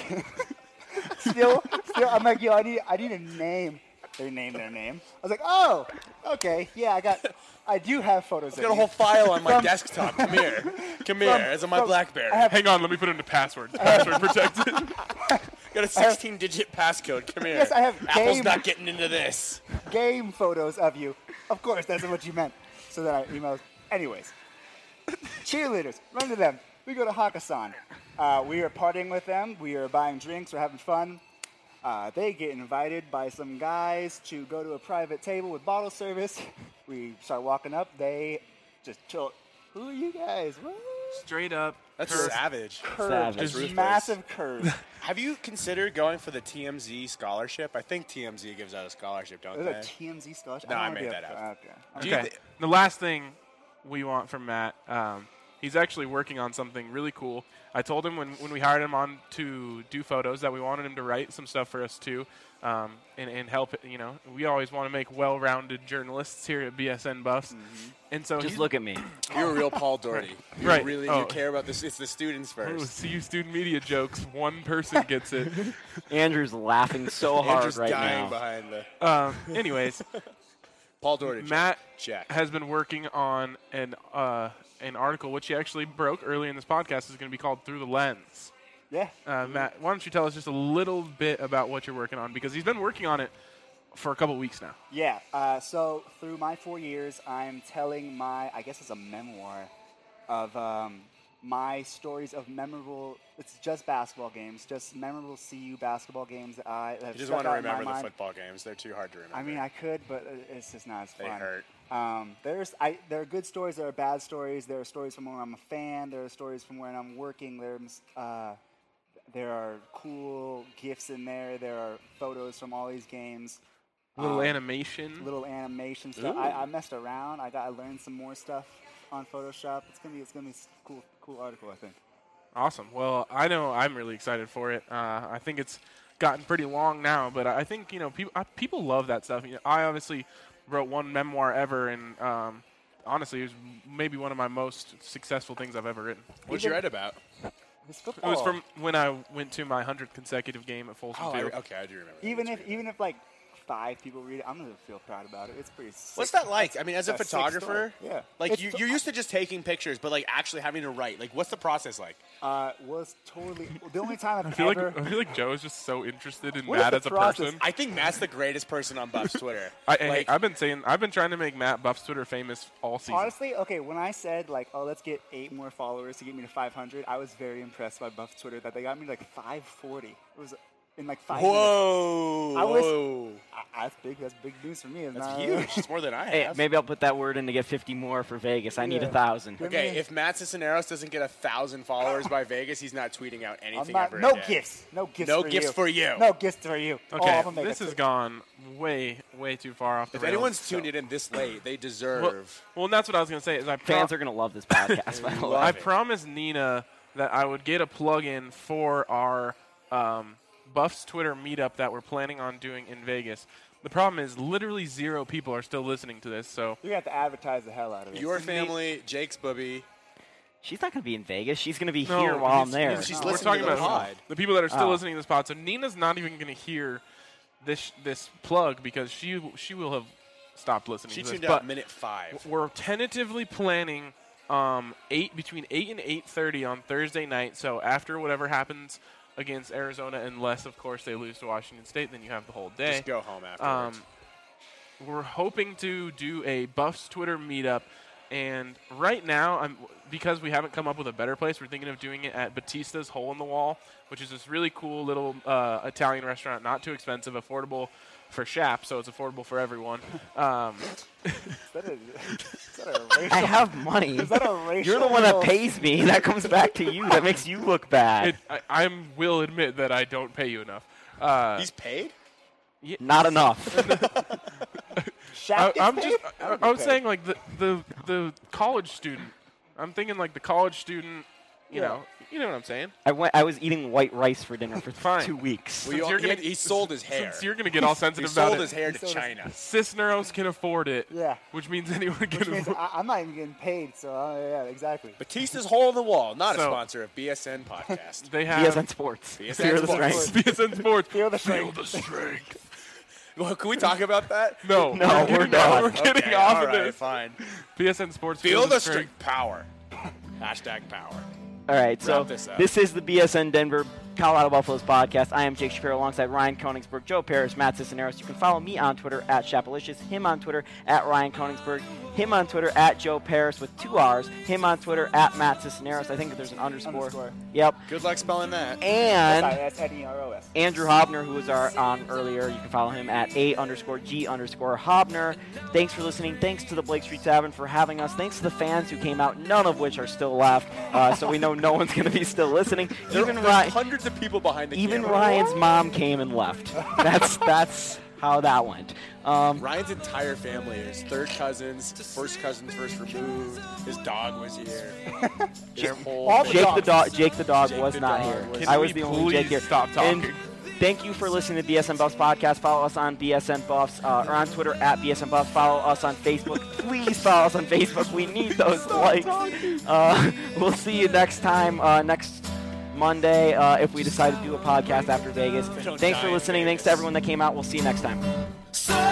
Still, I'm like, yo, I need a name. They named their name. I was like, oh, okay, yeah, I do have photos of I've got a you. whole file on my From- desktop. Come here. It's on my BlackBerry. Hang on, let me put it into password. Password protected. Got a 16-digit passcode. Come here. Yes, I have Apple's game- not getting into this. Game photos of you. Of course, that's what you meant. So then I emailed. Anyways, cheerleaders, run to them. We go to Hakkasan. We are partying with them. We are buying drinks. We're having fun. They get invited by some guys to go to a private table with bottle service. We start walking up. They just chill. Who are you guys? What? Straight up. That's curve. savage. Curve. That's Just ruthless. massive curve. Have you considered going for the TMZ scholarship? I think TMZ gives out a scholarship, don't There's they? a TMZ scholarship. No, I don't made wanna that be a- up. Okay. Do you Okay. The last thing we want from Matt, he's actually working on something really cool. I told him when we hired him on to do photos that we wanted him to write some stuff for us too, and help. We always want to make well-rounded journalists here at BSN Buffs, and so Just he's- look at me. You're a real Paul Doherty. You Right. Really, Oh. you care about this. It's the students Oh, first. CU student media jokes. One person gets it. Andrew's laughing so hard Andrew's right dying now. behind the. Anyways, Paul Doherty. Matt check. has been working on an article which he actually broke early in this podcast. Is going to be called "Through the Lens." Yeah. Matt, why don't you tell us just a little bit about what you're working on, because he's been working on it for a couple weeks now. Yeah. So through my 4 years, I'm telling I guess it's a memoir of my stories of memorable. It's just basketball games, just memorable CU basketball games that I have You just stuck want to out in my remember the mind. football games. They're too hard to remember. I mean, I could, but it's just not as They fun. hurt. There are good stories. There are bad stories. There are stories from when I'm a fan. There are stories from when I'm working. There are cool gifts in there. There are photos from all these games. Little animation. Little animation stuff. I messed around. I learned some more stuff on Photoshop. It's gonna be a cool article, I think. Awesome. Well, I know I'm really excited for it. I think it's gotten pretty long now, but I think people love that stuff. I obviously wrote one memoir ever, and honestly, it was maybe one of my most successful things I've ever written. What'd you write about? It was from when I went to my 100th consecutive game at Folsom Field. Okay, I do remember. Even if like 5 people read it, I'm gonna feel proud about it. It's pretty sick. What's that like? I mean, as a It's sick photographer, story. Yeah. like It's you're used to just taking pictures, but like actually having to write. Like, what's the process like? Was totally the only time I I've feel ever. like Joe is just so interested in What is Matt the as a process? person. I think Matt's the greatest person on Buff's Twitter. I've been trying to make Matt Buff's Twitter famous all season. Honestly, okay, when I said like, oh, let's get 8 more followers to get me to 500, I was very impressed by Buff's Twitter that they got me to like 540. It was in like 5 Whoa! minutes. That's big news for me. That's huge. It's more than I Hey, have. maybe I'll put that word in to get 50 more for Vegas. I need 1,000. Okay, if Matt Cisneros doesn't get 1,000 followers by Vegas, he's not tweeting out anything ever No again. gifts. No gifts. No for gifts you. for you. No gifts for you. Okay, I'm gonna make this it has to- gone way too far off the If rails. anyone's tuned in this late, they deserve. Well, and that's what I was going to say. Is Fans are going to love this podcast, by the way. I promised Nina that I would get a plug-in for our Buffs Twitter meetup that we're planning on doing in Vegas. The problem is literally 0 people are still listening to this, so You're gonna have to advertise the hell out of it. Your family, Jake's bubby. She's not going to be in Vegas. She's going to be No, here while I'm he's- there. She's we're listening talking to the about pod. the people that are still Oh. listening to this pod. So Nina's not even going to hear this plug because she will have stopped listening She to this. tuned But out minute 5. we're tentatively planning between 8 and 8:30 on Thursday night. So after whatever happens against Arizona, unless, of course, they lose to Washington State, then you have the whole day. Just go home afterwards. We're hoping to do a Buffs Twitter meetup. And right now, because we haven't come up with a better place, we're thinking of doing it at Batista's Hole in the Wall, which is this really cool little Italian restaurant, not too expensive, affordable for Shap, so it's affordable for everyone. Is that a racial? I have money. Is that a racial? You're the one that pays me. That comes back to you. That makes you look bad. I will admit that I don't pay you enough. He's paid? Not enough. I was saying like the college student. I'm thinking like the college student. You know what I'm saying. I was eating white rice for dinner for 2 weeks. Well, he sold his hair. Since you're gonna get all sensitive he about sold it. his hair to China. Cisneros can afford it. Yeah. Which means anyone can afford it. I'm not even getting paid, so yeah, exactly. Batista's Hole in the Wall, not a sponsor of BSN podcast. They have BSN Sports. BSN Sports. BSN Sports. Feel the strength. Well, can we talk about that? No, we're done. We're getting Okay, off all of right, this. Fine. BSN Sports. Feel the strength. Power. Hashtag power. All right, so Wrap this up. this is the BSN Denver Colorado Buffaloes podcast. I am Jake Shapiro alongside Ryan Koenigsberg, Joe Paris, Matt Cisneros. You can follow me on Twitter at Shapalicious, him on Twitter at Ryan Koenigsberg, him on Twitter at Joe Paris with 2 R's, him on Twitter at Matt Cisneros. I think there's an underscore. Yep. Good luck spelling that. And That's N-E-R-O-S. Andrew Hobner, who was on earlier, you can follow him at A_G_Hobner. Thanks for listening. Thanks to the Blake Street Tavern for having us. Thanks to the fans who came out, none of which are still left. So we know no one's going to be still listening. There's hundreds of people behind the even camera. Ryan's mom came and left. That's how that went. Ryan's entire family, his third cousins, first cousins first removed. His dog was here. Jake the dog was not here. I was the only Jake here. Stop talking. And thank you for listening to the BSN Buffs podcast. Follow us on BSN Buffs or on Twitter at BSN Buffs. Follow us on Facebook. Please follow us on Facebook. We need those likes. We'll see you next time, next Monday, if we decide to do a podcast after Vegas. Thanks for listening. Thanks to everyone that came out. We'll see you next time.